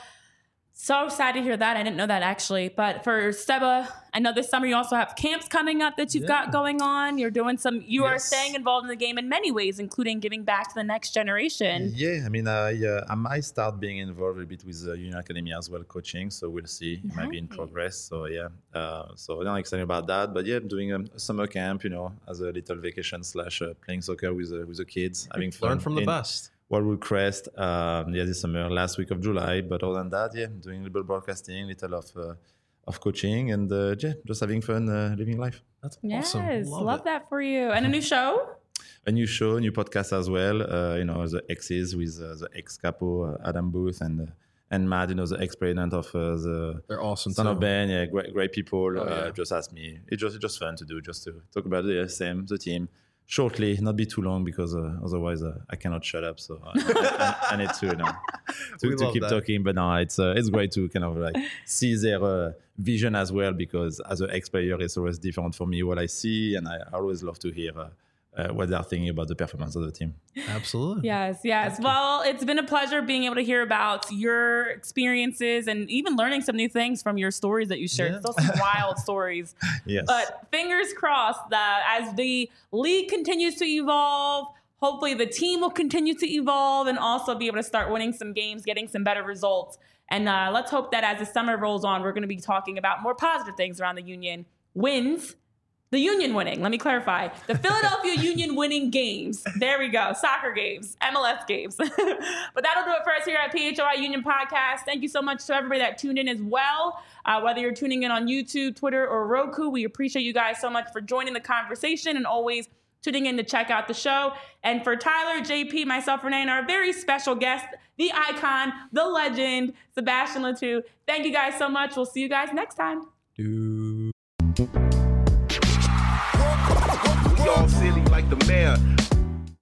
so sad to hear that. I didn't know that actually. But for Seba, I know this summer you also have camps coming up that you've yeah. got going on. You're doing some, you yes. are staying involved in the game in many ways, including giving back to the next generation. Yeah, I mean, uh, yeah, I might start being involved a bit with the uh, Union Academy as well, coaching. So we'll see. It nice. might be in progress. So yeah, uh, so I'm excited about that. But yeah, I'm doing a, a summer camp, you know, as a little vacation slash uh, playing soccer with uh, with the kids, having fun. Learn from the in, best. Wildwood Crest, um, yeah, this summer, last week of July. But other than that, yeah, doing a little broadcasting, little of uh, of coaching, and uh, yeah, just having fun, uh, living life. That's yes, awesome. Yes, love, love that for you. And a new show? A new show, new podcast as well. Uh, you know, the exes with uh, the ex-capo, uh, Adam Booth, and uh, and Matt, you know, the ex-president of uh, the They're awesome Son too. of Ben. Yeah, great, great people. Oh, uh, yeah. Just ask me. It's just, it's just fun to do, just to talk about the S M, the team. Shortly, not be too long because uh, otherwise uh, I cannot shut up. So I, I, I need to, you know, to, to keep that. talking. But no, it's uh, it's great to kind of like see their uh, vision as well, because as an ex-player, it's always different for me what I see, and I always love to hear uh, uh, what they're thinking about the performance of the team. Absolutely. Yes, yes. Well, it's been a pleasure being able to hear about your experiences and even learning some new things from your stories that you shared. Yeah. Those some wild stories. Yes. But fingers crossed that as the league continues to evolve, hopefully the team will continue to evolve and also be able to start winning some games, getting some better results. And uh, let's hope that as the summer rolls on, we're going to be talking about more positive things around the Union. Wins. The Union winning. Let me clarify. The Philadelphia Union winning games. There we go. Soccer games. M L S games. But that'll do it for us here at P H O I Union Podcast. Thank you so much to everybody that tuned in as well. Uh, whether you're tuning in on YouTube, Twitter, or Roku, we appreciate you guys so much for joining the conversation and always tuning in to check out the show. And for Tyler, J P, myself, Renee, and our very special guest, the icon, the legend, Sebastian Latou, thank you guys so much. We'll see you guys next time. Dude.